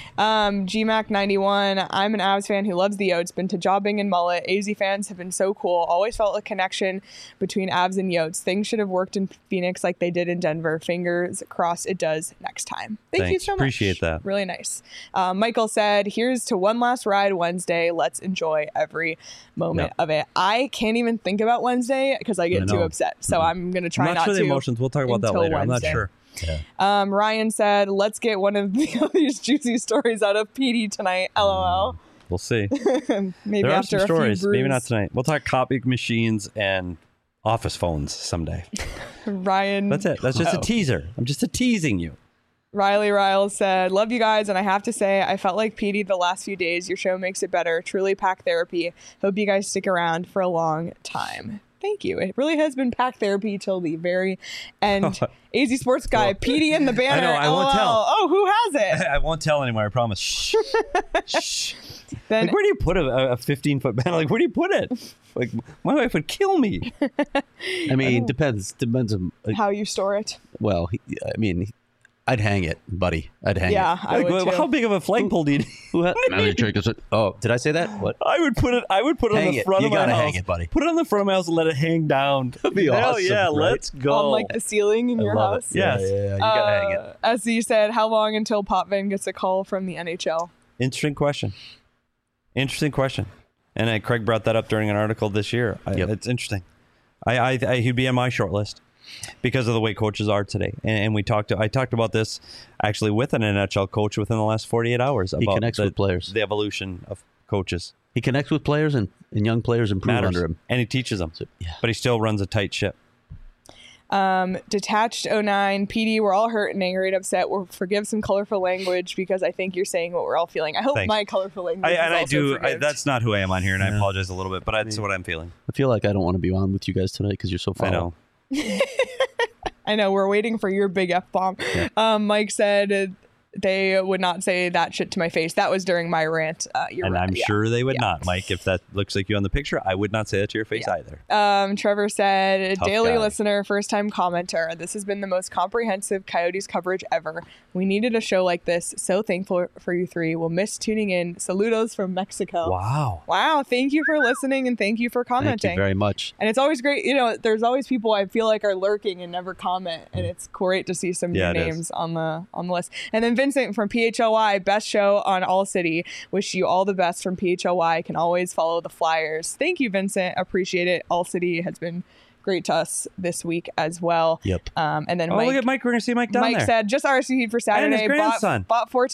GMAC91. I'm an Avs fan who loves the Oats. Been to Jobbing and Mullet. AZ fans have been so cool. Always felt a connection between Avs and Yotes. Things should have worked in Phoenix like they did in Denver. Fingers crossed it does next time. Thank you Thanks. so much. Appreciate that. Really nice. Michael said, here's to one last ride Wednesday. Let's enjoy every moment of it. I can't even think about Wednesday because I get I too know. upset. So I'm going to try I'm not not sure to. the emotions. We'll talk about that until later. I'm not Wednesday. sure. Ryan said, let's get one of these juicy stories out of PD tonight. LOL. We'll see. Maybe There are after some a few stories. brews. Maybe not tonight. We'll talk copy machines and office phones someday. Ryan. That's it. That's just a teaser. I'm just teasing you. Riley Riles said, love you guys, and I have to say, I felt like PD the last few days. Your show makes it better. Truly pack therapy. Hope you guys stick around for a long time. Thank you. It really has been pack therapy till the very end. AZ Sports Guy, PD in the banner. I know, I won't tell. Oh, who has it? I won't tell anymore. I promise. Shh. Shh. Then Like, where do you put a 15-foot banner? Like, where do you put it? Like, my wife would kill me. I mean, depends on. how you store it. Well, I'd hang it, buddy. I'd hang Yeah, it. I Like, would too. how big of a flagpole do you need? Oh, did I say that? What? I would put it on Hang the it. front You of my gotta house. hang it, buddy. Put it on the front of my house and let it hang down. That'd be Hell awesome, yeah, right? let's go. On like the ceiling in your love house. it. Yeah, Yes. you gotta hang it. As you said, how long until Potvin gets a call from the NHL? Interesting question. And Craig brought that up during an article this year. Yep. It's interesting. He'd be on my short list because of the way coaches are today. And I talked about this actually with an NHL coach within the last 48 hours about connects with players. the evolution of coaches. He connects with players, and young players improve Matters. under him. And he teaches them. Yeah. But he still runs a tight ship. Detached 09, PD, we're all hurt and angry and upset. We'll forgive some colorful language because I think you're saying what we're all feeling. I hope Thanks. my colorful language is also forgived. That's not who I am on here, and I apologize a little bit, but that's what I'm feeling. I feel like I don't want to be on with you guys tonight because you're so I foul. know. I know, we're waiting for your big F-bomb. Mike said they would not say that shit to my face. That was during my rant. You're And right. I'm Yeah. sure they would not, Mike. If that looks like you on the picture, I would not say that to your face either. Trevor said, Tough daily guy. listener, first time commenter. This has been the most comprehensive Coyotes coverage ever. We needed a show like this. So thankful for you three. We'll miss tuning in. Saludos from Mexico. Wow. Wow. Thank you for listening and thank you for commenting. Thank you very much. And it's always great. There's always people I feel like are lurking and never comment. And it's great to see some Yeah, new it is. names on the list. And then Vincent from PHLY, best show on All City. Wish you all the best from PHLY. Can always follow the Flyers. Thank you, Vincent. Appreciate it. All City has been great to us this week as well. Yep. And then Oh, Mike, look at Mike. We're going to see Mike down Mike there. said, just RSVP'd for Saturday. grandson. Bought 4 tickets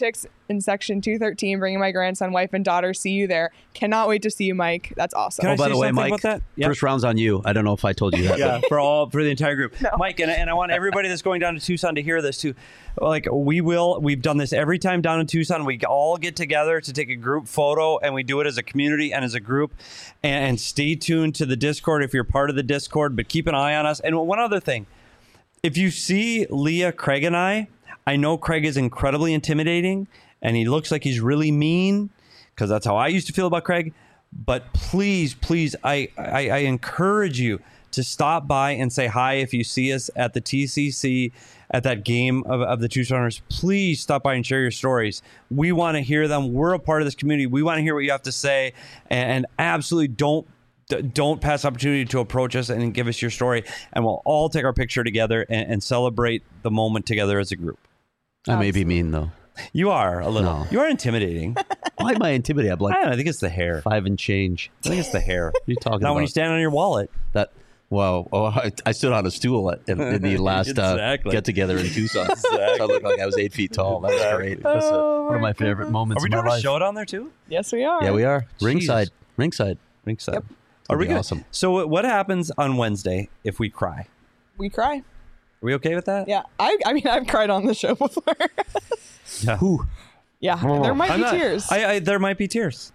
in section 213, bringing my grandson, wife, and daughter. See you there. Cannot wait to see you, Mike. That's awesome. Can I Oh, by say the way, something Mike, about that? Yep. first round's on you. I don't know if I told you that. Yeah, for the entire group. No. Mike, and I want everybody that's going down to Tucson to hear this too. Like we've done this every time down in Tucson. We all get together to take a group photo, and we do it as a community and as a group. And stay tuned to the Discord if you're part of the Discord, but keep an eye on us. And one other thing, if you see Leah, Craig, and I know Craig is incredibly intimidating, and he looks like he's really mean, because that's how I used to feel about Craig. But please, I encourage you to stop by and say hi if you see us at the TCC at that game of the Tucsoners. Please stop by and share your stories. We want to hear them. We're a part of this community. We want to hear what you have to say, and absolutely don't pass opportunity to approach us and give us your story, and we'll all take our picture together and celebrate the moment together as a group. I may be mean, though. You are a little. No. You are intimidating. Why am I intimidated? I'm like I don't know. I think it's the hair. 5 and change. I think it's the hair. What are you talking Now, about? when you stand on your wallet. That, wow. Oh, I stood on a stool in the last Exactly. get-together in Tucson. So I looked like I was 8 feet tall. That was great. That's one of my favorite moments Are we in my doing a life. show down there too? Yes, we are. Yeah, we are. Ringside. Jesus. Ringside. Ringside. Yep. Are we be good? awesome. So what happens on Wednesday if we cry? We cry. Are we okay with that? Yeah. I mean, I've cried on the show before. Yeah. Who? Yeah. There might I'm be not- tears. There might be tears.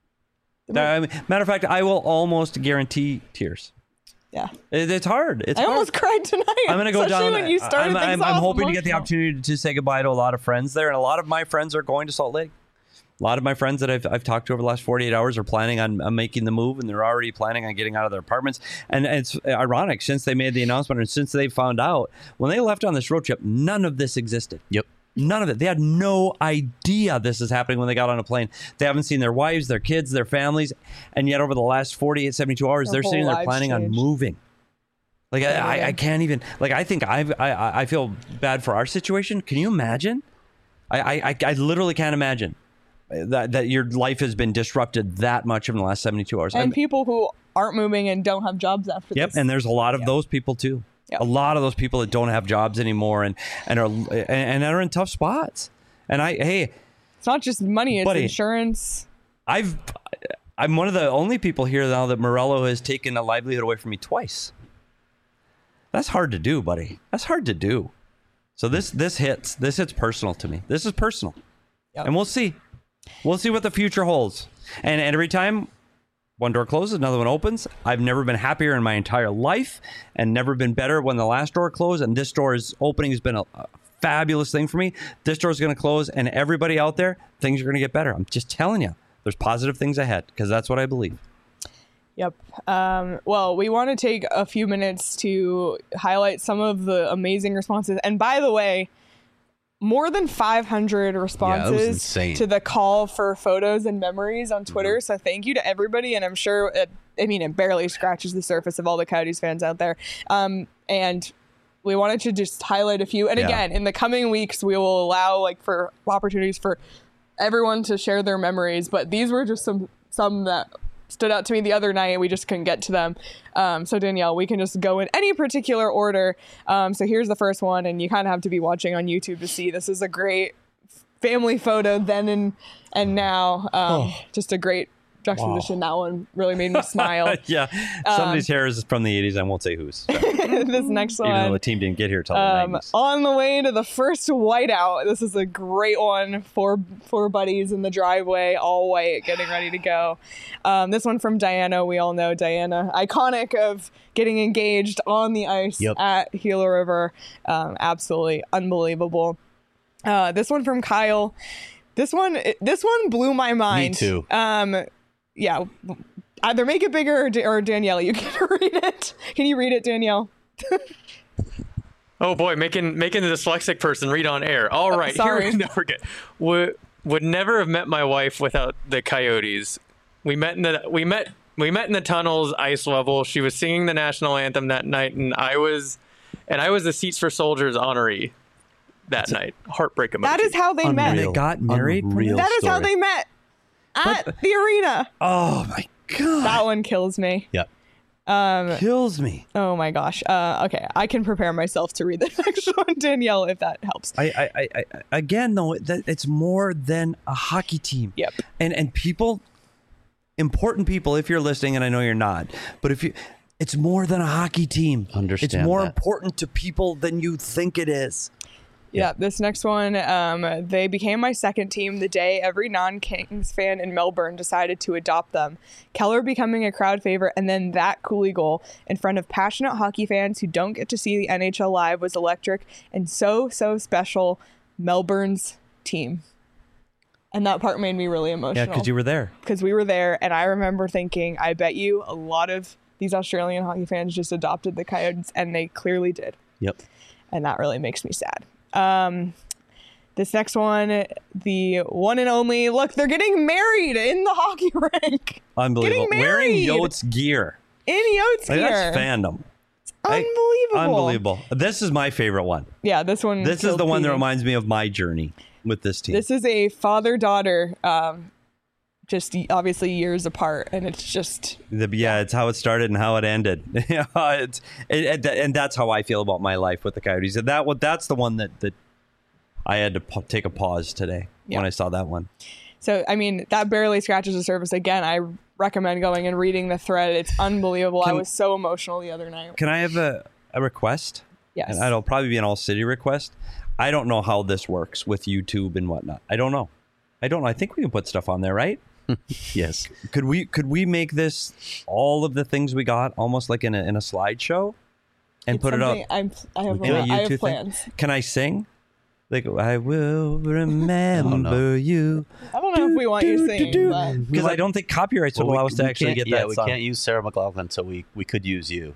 Matter of fact, I will almost guarantee tears. Yeah. It's hard. It's I hard. almost cried tonight. I'm going to go especially down. when you started I'm things off hoping to get the emotional. opportunity to say goodbye to a lot of friends there, and a lot of my friends are going to Salt Lake. A lot of my friends that I've talked to over the last 48 hours are planning on making the move, and they're already planning on getting out of their apartments. And it's ironic, since they made the announcement and since they found out, when they left on this road trip, none of this existed. Yep. None of it. They had no idea this is happening when they got on a plane. They haven't seen their wives, their kids, their families, and yet over the last 48, 72 hours, Their they're sitting whole there lives planning on changed. moving. Like I can't even. Like I think I feel bad for our situation. Can you imagine? I literally can't imagine that your life has been disrupted that much in the last 72 hours. And people who aren't moving and don't have jobs after Yep, this. and there's a lot of those people too. Yep. A lot of those people that don't have jobs anymore and are in tough spots. And It's not just money, it's Buddy. insurance. I'm one of the only people here now that Morello has taken a livelihood away from me twice. That's hard to do, buddy. That's hard to do. So this hits personal to me. This is personal. Yep. And we'll see. We'll see what the future holds. And every time one door closes, another one opens. I've never been happier in my entire life and never been better when the last door closed. And this door's opening has been a fabulous thing for me. This door is going to close, and everybody out there, things are going to get better. I'm just telling you, there's positive things ahead, because that's what I believe. Yep. Well, we want to take a few minutes to highlight some of the amazing responses. And by the way, more than 500 responses insane. to the call for photos and memories on Twitter. So thank you to everybody. And I'm sure, it barely scratches the surface of all the Coyotes fans out there. And we wanted to just highlight a few. And Yeah. again, in the coming weeks, we will allow for opportunities for everyone to share their memories. But these were just some that stood out to me the other night. We just couldn't get to them. So Danielle, we can just go in any particular order. So here's the first one, and you kind of have to be watching on YouTube to see. This is a great family photo then and now. Just a great juxtaposition. That one really made me smile. Yeah. Somebody's hair is from the 80s. I won't say whose. This next Even though one. the team didn't get here till the 90s. On the way to the first whiteout. This is a great one. Four buddies in the driveway, all white, getting ready to go. This one from Diana. We all know Diana, iconic of getting engaged on the ice Yep. at Gila River. Absolutely unbelievable. This one from Kyle. This one blew my mind. Me too. Yeah. Either make it bigger or Danielle, you can read it. Can you read it, Danielle? Oh boy, making the dyslexic person read on air. All right, sorry. here we go. Would never have met my wife without the Coyotes. We met in the tunnels, ice level. She was singing the national anthem that night, and I was the Seats for Soldiers honoree that night. Heartbreak emoji. That is how they met. Unreal. They got married? Unreal That is how story. they met at the arena. Oh my God. That one kills me. Yep. Kills me. Oh my gosh. Okay, I can prepare myself to read the next one, Danielle, if that helps. I again though, it's more than a hockey team. Yep. And people, important people, if you're listening, and I know you're not, but it's more than a hockey team. Understand it's more that. important to people than you think it is. Yeah, this next one, they became my second team the day every non-Kings fan in Melbourne decided to adopt them. Keller becoming a crowd favorite, and then that Cooley goal in front of passionate hockey fans who don't get to see the NHL live was electric and so special. Melbourne's team. And that part made me really emotional. Yeah, because you were there. Because we were there, and I remember thinking, I bet you a lot of these Australian hockey fans just adopted the Coyotes, and they clearly did. Yep. And that really makes me sad. This next one, the one and only, look, they're getting married in the hockey rink. Unbelievable. Getting Wearing married. Yotes gear. In Yotes Like, gear. that's fandom. Unbelievable. Unbelievable. This is my favorite one. Yeah, this one. This is killed the one that Petey. reminds me of my journey with this team. This is a father-daughter, just obviously years apart, and it's just... It's how it started and how it ended. And that's how I feel about my life with the Coyotes. And that's the one that I had to take a pause today when I saw that one. So, I mean, that barely scratches the surface. Again, I recommend going and reading the thread. It's unbelievable. I was so emotional the other night. Can I have a request? Yes. And it'll probably be an all-city request. I don't know how this works with YouTube and whatnot. I don't know. I think we can put stuff on there, right? Yes. Could we make this all of the things we got almost like in a slideshow and It's put it up something I have in a YouTube thing? plans. Can I sing? Like, I will remember you. I don't know if we want you singing, but... Because I don't think copyrights would allow us to actually get that Yeah, we song. can't use Sarah McLachlan, so we could use you.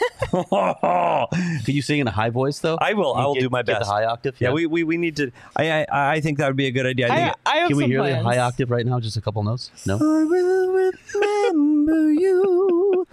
Could you sing in a high voice, though? I will. I will do my Get best. the high octave? Yeah, we need to. I think that would be a good idea. I have Can we some hear plans. the high octave right now? Just a couple notes? No? I will remember you.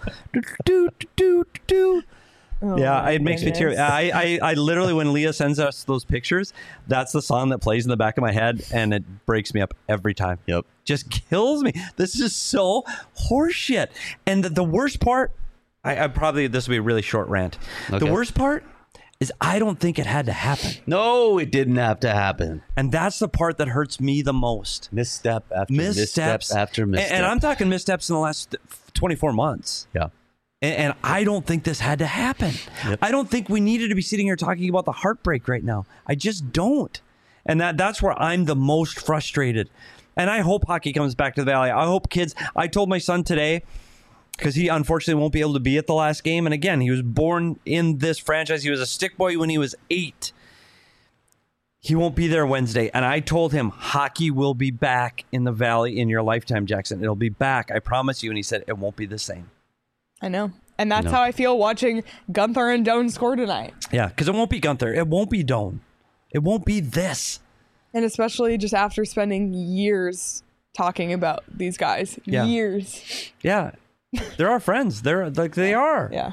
Do. Oh, Yeah, my it makes me tear. goodness. I literally, when Leah sends us those pictures, that's the song that plays in the back of my head, and it breaks me up every time. Yep. Just kills me. This is so horseshit. And the worst part, I probably, this will be a really short rant. Okay. The worst part is I don't think it had to happen. No, it didn't have to happen. And that's the part that hurts me the most. Misstep after misstep after misstep. And I'm talking missteps in the last 24 months. Yeah. And I don't think this had to happen. Yep. I don't think we needed to be sitting here talking about the heartbreak right now. I just don't. And that's where I'm the most frustrated. And I hope hockey comes back to the Valley. I hope kids. I told my son today, because he unfortunately won't be able to be at the last game. And again, he was born in this franchise. He was a stick boy when he was 8. He won't be there Wednesday. And I told him, hockey will be back in the Valley in your lifetime, Jackson. It'll be back. I promise you. And he said, it won't be the same. I know. And that's No. how I feel watching Gunther and Doan score tonight. Yeah, because it won't be Gunther. It won't be Doan. It won't be this. And especially just after spending years talking about these guys. Yeah. Years. Yeah. They're our friends. They're like they are. Yeah.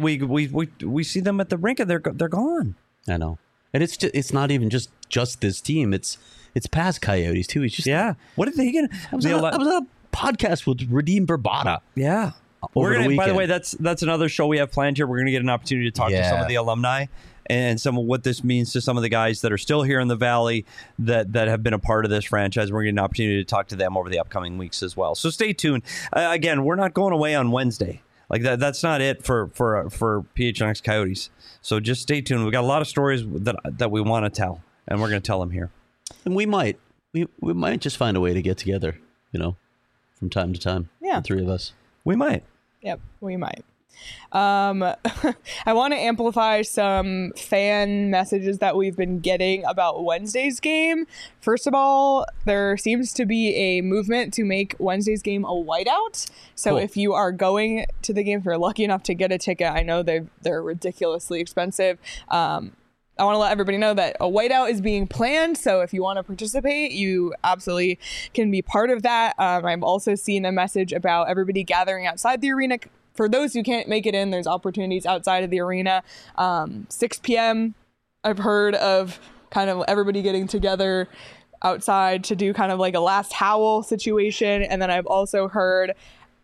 We see them at the rink and they're gone. I know. And it's not even just this team. It's past Coyotes too. It's just Yeah. What did they get? I was on a podcast with Radim Barbata. Yeah. Over We're the gonna. By the weekend. way, that's another show we have planned here. We're gonna get an opportunity to talk to some of the alumni and some of what this means to some of the guys that are still here in the Valley that have been a part of this franchise. We're getting an opportunity to talk to them over the upcoming weeks as well. So stay tuned. Again, we're not going away on Wednesday. Like that's not it for PHNX Coyotes. So just stay tuned. We got a lot of stories that we want to tell, and we're going to tell them here. And we might just find a way to get together, from time to time. Yeah. The three of us. We might. Yep, we might. I want to amplify some fan messages that we've been getting about Wednesday's game. First of all, there seems to be a movement to make Wednesday's game a whiteout. So Cool. if you are going to the game, if you're lucky enough to get a ticket, I know they're ridiculously expensive. I want to let everybody know that a whiteout is being planned. So if you want to participate, you absolutely can be part of that. I've also seen a message about everybody gathering outside the arena. For those who can't make it in, there's opportunities outside of the arena. 6 p.m. I've heard of kind of everybody getting together outside to do kind of like a last howl situation. And then I've also heard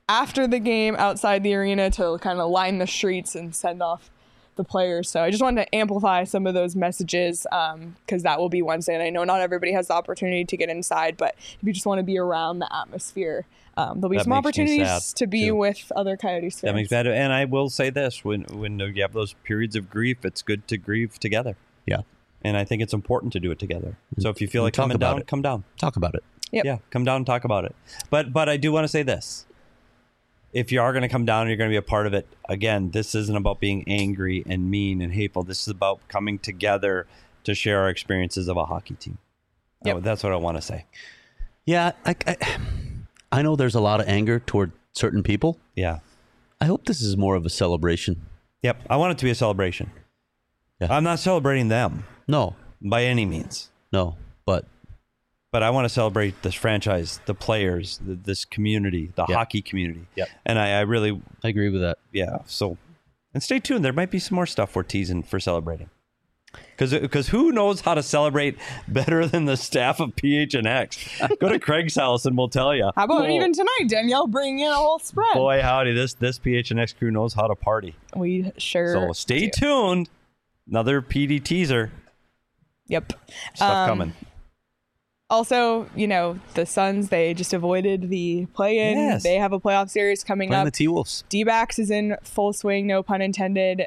after the game outside the arena to kind of line the streets and send off the players. So I just wanted to amplify some of those messages because that will be Wednesday. And I know not everybody has the opportunity to get inside, but if you just want to be around the atmosphere, there'll be That some makes me opportunities sad, to be too. with other Coyotes fans. That makes better. And I will say this: when you have those periods of grief, it's good to grieve together. Yeah. And I think it's important to do it together. So if you feel like Talk coming about down, it. come down. Talk about it. Yep. Yeah, come down and talk about it. But I do want to say this. If you are going to come down and you're going to be a part of it, again, this isn't about being angry and mean and hateful. This is about coming together to share our experiences of a hockey team. Yep. Oh, that's what I want to say. Yeah, I know there's a lot of anger toward certain people. Yeah. I hope this is more of a celebration. Yep. I want it to be a celebration. Yeah. I'm not celebrating them No, by any means. no, but But I want to celebrate this franchise, the players, this community, the Yep. hockey community. Yep. And I really, I agree with that. yeah. So, and stay tuned. There might be some more stuff we're teasing for celebrating. Because who knows how to celebrate better than the staff of PHNX? Go to Craig's house and we'll tell you. How about even tonight, Danielle bringing in a whole spread? Boy, howdy, this PHNX crew knows how to party. We sure So stay do. tuned. Another PD teaser. Yep. Stuff coming. Also, the Suns, they just avoided the play-in. Yes. They have a playoff series coming Playing up. the T-Wolves. D-backs is in full swing, no pun intended.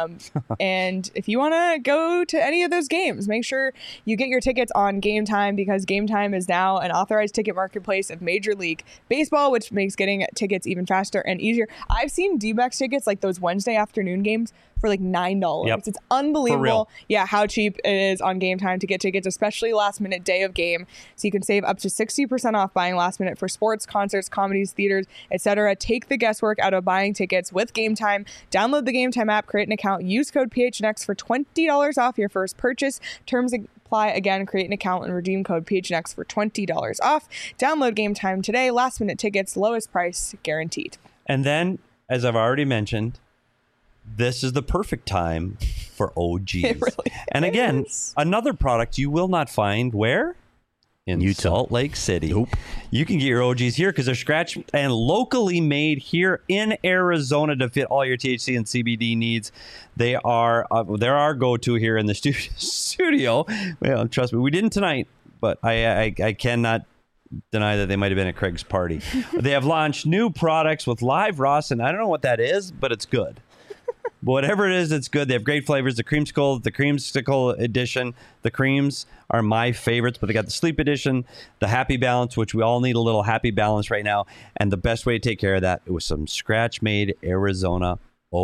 And if you want to go to any of those games, make sure you get your tickets on Game Time, because Game Time is now an authorized ticket marketplace of Major League Baseball, which makes getting tickets even faster and easier. I've seen D-backs tickets, like those Wednesday afternoon games, for like $9. Yep. It's unbelievable. For real. Yeah, how cheap it is on Game Time to get tickets, especially last minute day of game. So you can save up to 60% off buying last minute for sports, concerts, comedies, theaters, etc. Take the guesswork out of buying tickets with Game Time. Download the Game Time app, create an account, use code PHNX for $20 off your first purchase. Terms apply. Again, create an account and redeem code PHNX for $20 off. Download Game Time today. Last minute tickets, lowest price guaranteed. And then, as I've already mentioned, this is the perfect time for OGs. It really and again, is. another product you will not find where? In Utah. Salt Lake City. Nope. You can get your OGs here because they're scratch and locally made here in Arizona to fit all your THC and CBD needs. They are they're our go-to here in the studio. Well, trust me, we didn't tonight, but I cannot deny that they might have been at Craig's party. They have launched new products with live Ross, and I don't know what that is, but it's good. Whatever it is, it's good. They have great flavors. The creamsicle edition. The creams are my favorites, but they got the sleep edition, the happy balance, which we all need a little happy balance right now. And the best way to take care of that, it was some scratch-made Arizona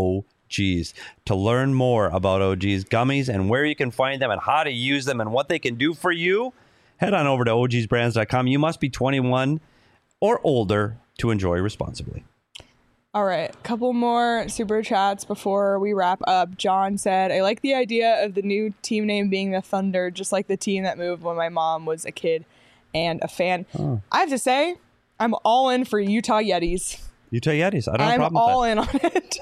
OGs. To learn more about OGs gummies and where you can find them and how to use them and what they can do for you, head on over to ogsbrands.com. You must be 21 or older to enjoy responsibly. All right, a couple more super chats before we wrap up. John said, I like the idea of the new team name being the Thunder, just like the team that moved when my mom was a kid and a fan. Oh. I have to say, I'm all in for Utah Yetis. Utah Yetis. I don't have a I'm problem all with in on it.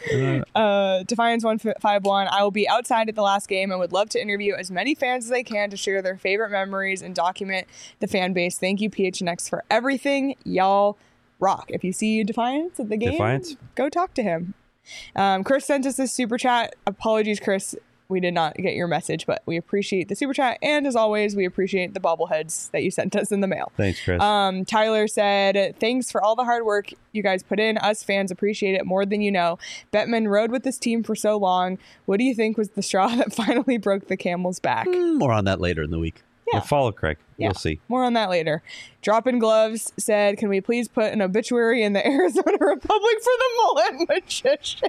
that. Defiance 151. I will be outside at the last game and would love to interview as many fans as I can to share their favorite memories and document the fan base. Thank you, PHNX, for everything. Y'all rock. If you see Defiance at the game, Defiance? go talk to him. Chris sent us this super chat. Apologies, Chris. We did not get your message, but we appreciate the super chat. And as always, we appreciate the bobbleheads that you sent us in the mail. Thanks, Chris. Tyler said, thanks for all the hard work you guys put in. Us fans appreciate it more than you know. Bettman rode with this team for so long. What do you think was the straw that finally broke the camel's back? More on that later in the week. Yeah. We'll follow Craig. Yeah. We'll see. More on that later. Dropping Gloves said, can we please put an obituary in the Arizona Republic for the mullet magician?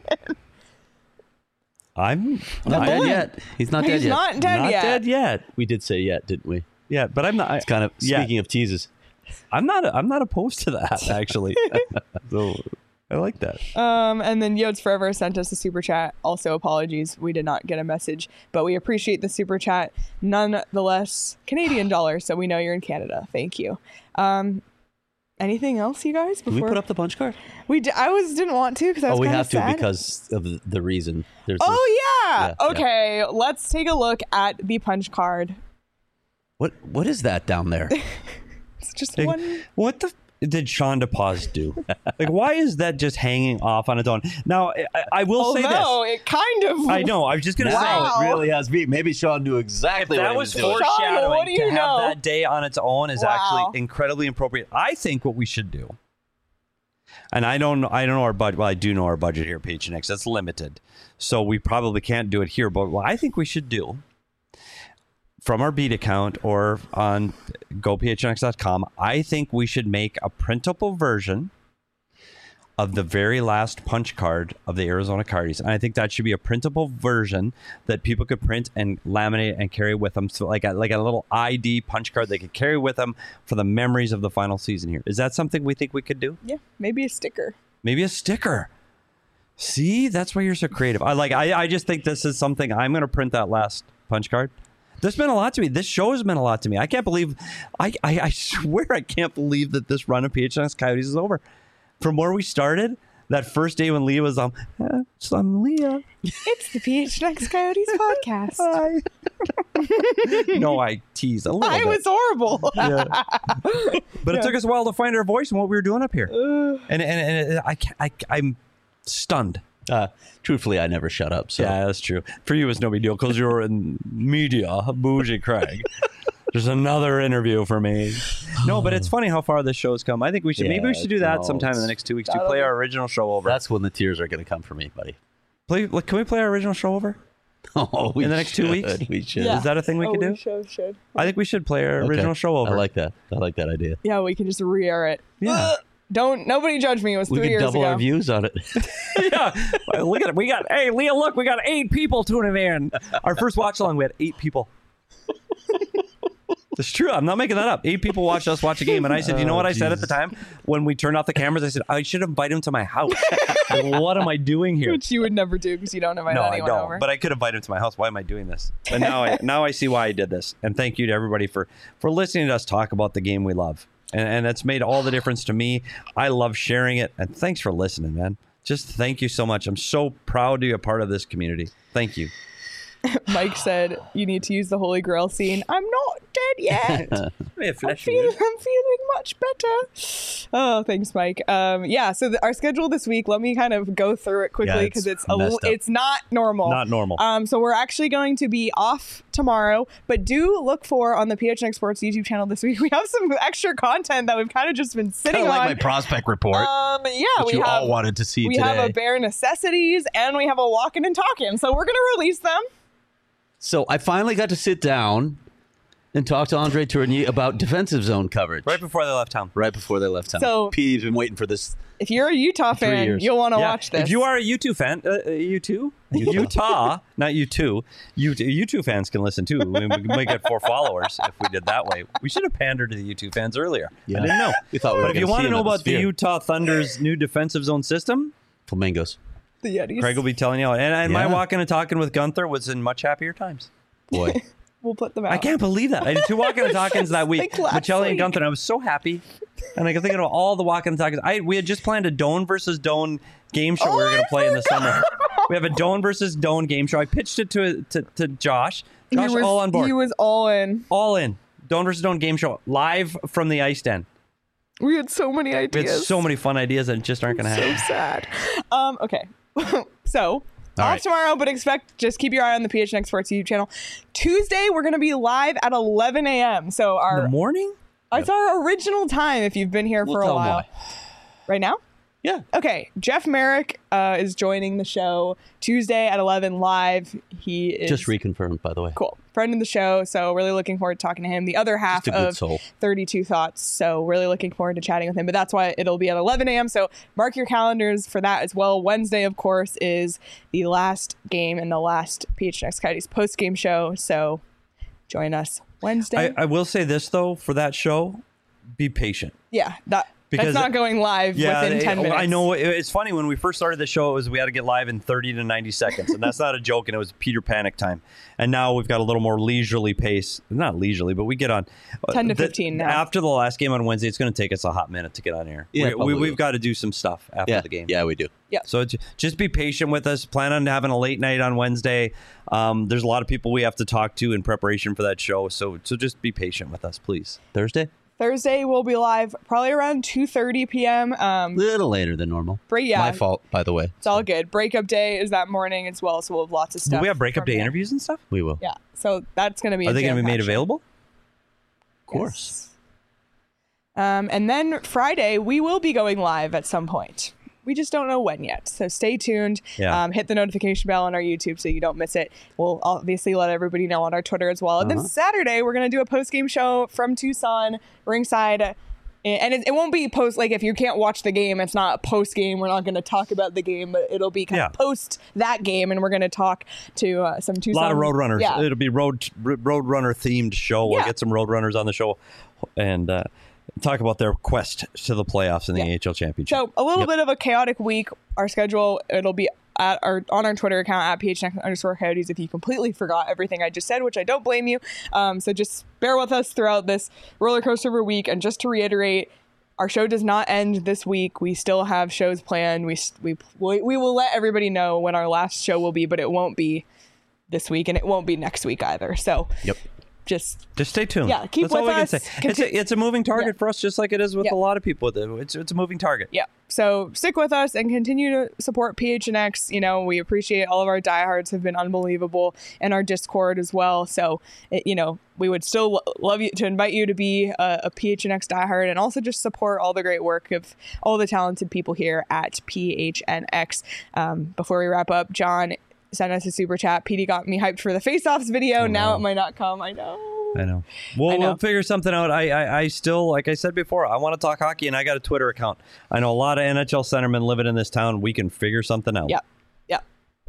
I'm Not dead yet. He's not dead He's yet. not dead not yet. dead yet. We did say yet, didn't we? Yeah, but I'm not. It's kind of yeah. speaking of teases. I'm not opposed to that actually. So I like that. And then Yodes Forever sent us a super chat. Also, apologies, we did not get a message, but we appreciate the super chat nonetheless. Canadian dollars, so we know you're in Canada. Thank you. Anything else, you guys? Did we put up the punch card? Didn't want to because I was Oh, we kinda have to sad. because of the reason. There's Oh yeah. Yeah, Okay, let's take a look at the punch card. What is that down there? It's just Hey, one. What the? did Sean DePaz do? Like, why is that just hanging off on its own? Now, I will say Although this. it kind of. I know. I was just going to Wow. say. It really has beat. Maybe Sean knew exactly That what he was was doing. foreshadowing. Sean, what do you to know? have that day on its own is Wow. actually incredibly appropriate. I think what we should do, and I don't know our budget. Well, I do know our budget here at PHNX. That's limited, so we probably can't do it here. But what I think we should do, from our Beat account or on gophnx.com, I think we should make a printable version of the very last punch card of the Arizona Coyotes. And I think that should be a printable version that people could print and laminate and carry with them. So like a little ID punch card they could carry with them for the memories of the final season here. Is that something we think we could do? Yeah, maybe a sticker. Maybe a sticker. See, that's why you're so creative. I just think this is something I'm going to print that last punch card. This meant a lot to me. This show has meant a lot to me. I can't believe, I swear I can't believe that this run of PHNX Coyotes is over. From where we started, that first day when Leah was I'm Leah. It's the PHNX Coyotes podcast. Hi. No, I teased a little I bit. was horrible. Yeah. But it took us a while to find our voice and what we were doing up here. And I'm stunned. Truthfully, I never shut up. So Yeah, that's true. For you, it's no big deal because you're in media, bougie Craig. There's another interview for me. No, but it's funny how far this show's come. I think we should maybe we should do that sometime in the next 2 weeks to play our original show over. that's when the tears are going to come for me, buddy. Can we play our original show over? Oh, we In the next 2 weeks? We should. Yeah. Is that a thing we could do? Should. I think we should play our Okay. original show over. I like that. I like that idea. Yeah, we can just re-air it. Yeah. Nobody judge me. It was We 3 could years double ago. our views on it. Yeah. Look at it. Hey, Leah, look, we got 8 people tuning in. Our first watch along, we had 8 people. It's true. I'm not making that up. 8 people watched us watch a game. And I said, you know what I said at the time when we turned off the cameras? I said, I should invite him to my house. Like, what am I doing here? Which you would never do because you don't invite No, I anyone don't. over. But I could invite him to my house. Why am I doing this? But now I see why I did this. And thank you to everybody for listening to us talk about the game we love. And that's made all the difference to me. I love sharing it. And thanks for listening, man. Just thank you so much. I'm so proud to be a part of this community. Thank you. Mike said you need to use the Holy Grail scene. I'm not dead yet. I'm feeling much better. Oh, thanks, Mike. Yeah. So our schedule this week. Let me kind of go through it quickly because it's it's messed up. it's not normal. Not normal. So we're actually going to be off tomorrow, but do look for on the PHNX Sports YouTube channel this week. We have some extra content that we've kind of just been sitting Kind of on. like my prospect report, Yeah, which we you have. all wanted to see We today. have a bare necessities and we have a walking and talking. So we're gonna release them. So I finally got to sit down and talk to Andre Tourigny about defensive zone coverage Right before they left town. right before they left town. So- Pete's been waiting for this. If you're a Utah 3 fan, years. you'll want to Yeah. watch this. If you are a U2 fan, Utah, not U2, U2 fans can listen too. We might get 4 followers if we did that way. We should have pandered to the U2 fans earlier. Yeah. I didn't know. We thought we were But if you gonna want see to know him at the about the Sphere. Utah Thunder's new defensive zone system, Flamingos. the Yetis. Craig will be telling you. And my Yeah. walking and talking with Gunther was in much happier times. Boy. We'll put them out. I can't believe that. I did 2 walking and talkings that week. Like last Michelli and week. Gunther, and I was so happy. And I can think of all the walking and talkings. We had just planned a Doan versus Doan game show we were going to play in the summer. We have a Doan versus Doan game show. I pitched it to Josh. Josh, all on board. He was all in. All in. Doan versus Doan game show live from the ice den. We had so many We ideas. had so many fun ideas that just aren't going to happen. So sad. Okay. So All off right. tomorrow, but just keep your eye on the PHNX Sports YouTube channel. Tuesday, we're going to be live at 11 a.m. So In the morning? it's our original time if you've been here for a tell 'em while. why. Right now? Yeah. Okay. Jeff Merrick is joining the show Tuesday at 11 live. He is Just reconfirmed, by the way. cool. Friend of the show. So really looking forward to talking to him. The other half Just a good of soul. 32 Thoughts. So really looking forward to chatting with him. But that's why it'll be at 11 a.m. So mark your calendars for that as well. Wednesday, of course, is the last game and the last PHNX Coyotes post-game show. So join us Wednesday. I will say this, though, for that show, be patient. Yeah, Because- that's not going live within 10 minutes. I know. It's funny. When we first started the show, it was we had to get live in 30 to 90 seconds. And that's not a joke. And it was Peter Panic time. And now we've got a little more leisurely pace. Not leisurely, but we get on. 10 to 15 now. After the last game on Wednesday, it's going to take us a hot minute to get on air. Yeah, probably we've will. got to do some stuff after Yeah. the game. Yeah, we do. So just be patient with us. Plan on having a late night on Wednesday. There's a lot of people we have to talk to in preparation for that show. So just be patient with us, please. Thursday? Thursday we'll be live probably around 2:30 p.m. A little later than normal. Yeah. My fault, by the way. It's all good. Breakup day is that morning as well, so we'll have lots of stuff. Will we have breakup from day there. interviews and stuff? We will. Yeah, so that's going to be Are they going to be made available? Of course. And then Friday, we will be going live at some point. We just don't know when yet. So stay tuned. Yeah. Hit the notification bell on our YouTube so you don't miss it. We'll obviously let everybody know on our Twitter as well. And then Saturday, we're going to do a post-game show from Tucson, ringside. And it won't be post, like if you can't watch the game, it's not a post-game. We're not going to talk about the game, but it'll be kind of post that game. And we're going to talk to some Tucson. A lot of Roadrunners. Yeah. It'll be Roadrunner themed show. We'll get some Roadrunners on the show and talk about their quest to the playoffs in the AHL Championship. So a little bit of a chaotic week. Our schedule, it'll be on our Twitter account at PHNX_Coyotes if you completely forgot everything I just said, which I don't blame you. So just bear with us throughout this roller coaster of a week. And just to reiterate, our show does not end this week. We still have shows planned. We will let everybody know when our last show will be, but it won't be this week and it won't be next week either. So just stay tuned. Yeah, keep That's with all we us. can say. It's a moving target for us, just like it is with a lot of people. It's a moving target. Yeah. So stick with us and continue to support PHNX. You know, we appreciate all of our diehards have been unbelievable, and our Discord as well. So, we would still love you to invite you to be a PHNX diehard and also just support all the great work of all the talented people here at PHNX. Before we wrap up, John sent us a super chat. PD got me hyped for the face-offs video. Now it might not come. I know. We'll figure something out. I still, like I said before, I want to talk hockey, and I got a Twitter account. I know a lot of NHL centermen living in this town. We can figure something out. Yep.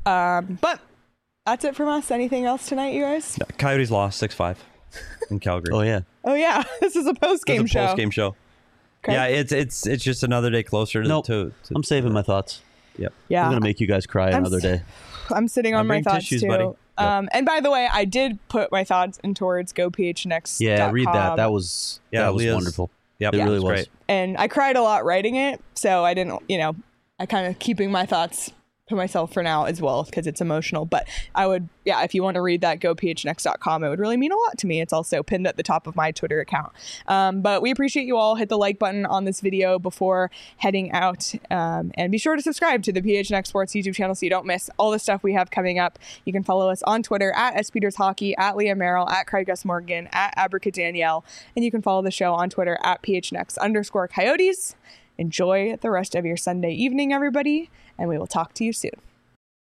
But that's it from us. Anything else tonight, you guys? Coyotes lost 6-5 in Calgary. Oh yeah. This is a post-game show. Post-game show. Okay. Yeah, it's just another day closer to I'm saving my thoughts. Yep. Yeah. I'm gonna make you guys cry another day. I'm sitting on my bring thoughts tissues, too. buddy. And by the way, I did put my thoughts in towards GoPHNX.com. Yeah, read that. That was wonderful. Yep, it really was was. great. And I cried a lot writing it, so I didn't, I kind of keeping my thoughts to myself for now as well because it's emotional. But I would, if you want to read that, GoPHNX.com. It would really mean a lot to me. It's also pinned at the top of my Twitter account. But we appreciate you all. Hit the like button on this video before heading out. And be sure to subscribe to the PHNX Sports YouTube channel so you don't miss all the stuff we have coming up. You can follow us on Twitter at SPetersHockey, at Leah Merrill, at Craig S. Morgan, at Abracadanielle. And you can follow the show on Twitter at PHNX_Coyotes. Enjoy the rest of your Sunday evening, everybody, and we will talk to you soon.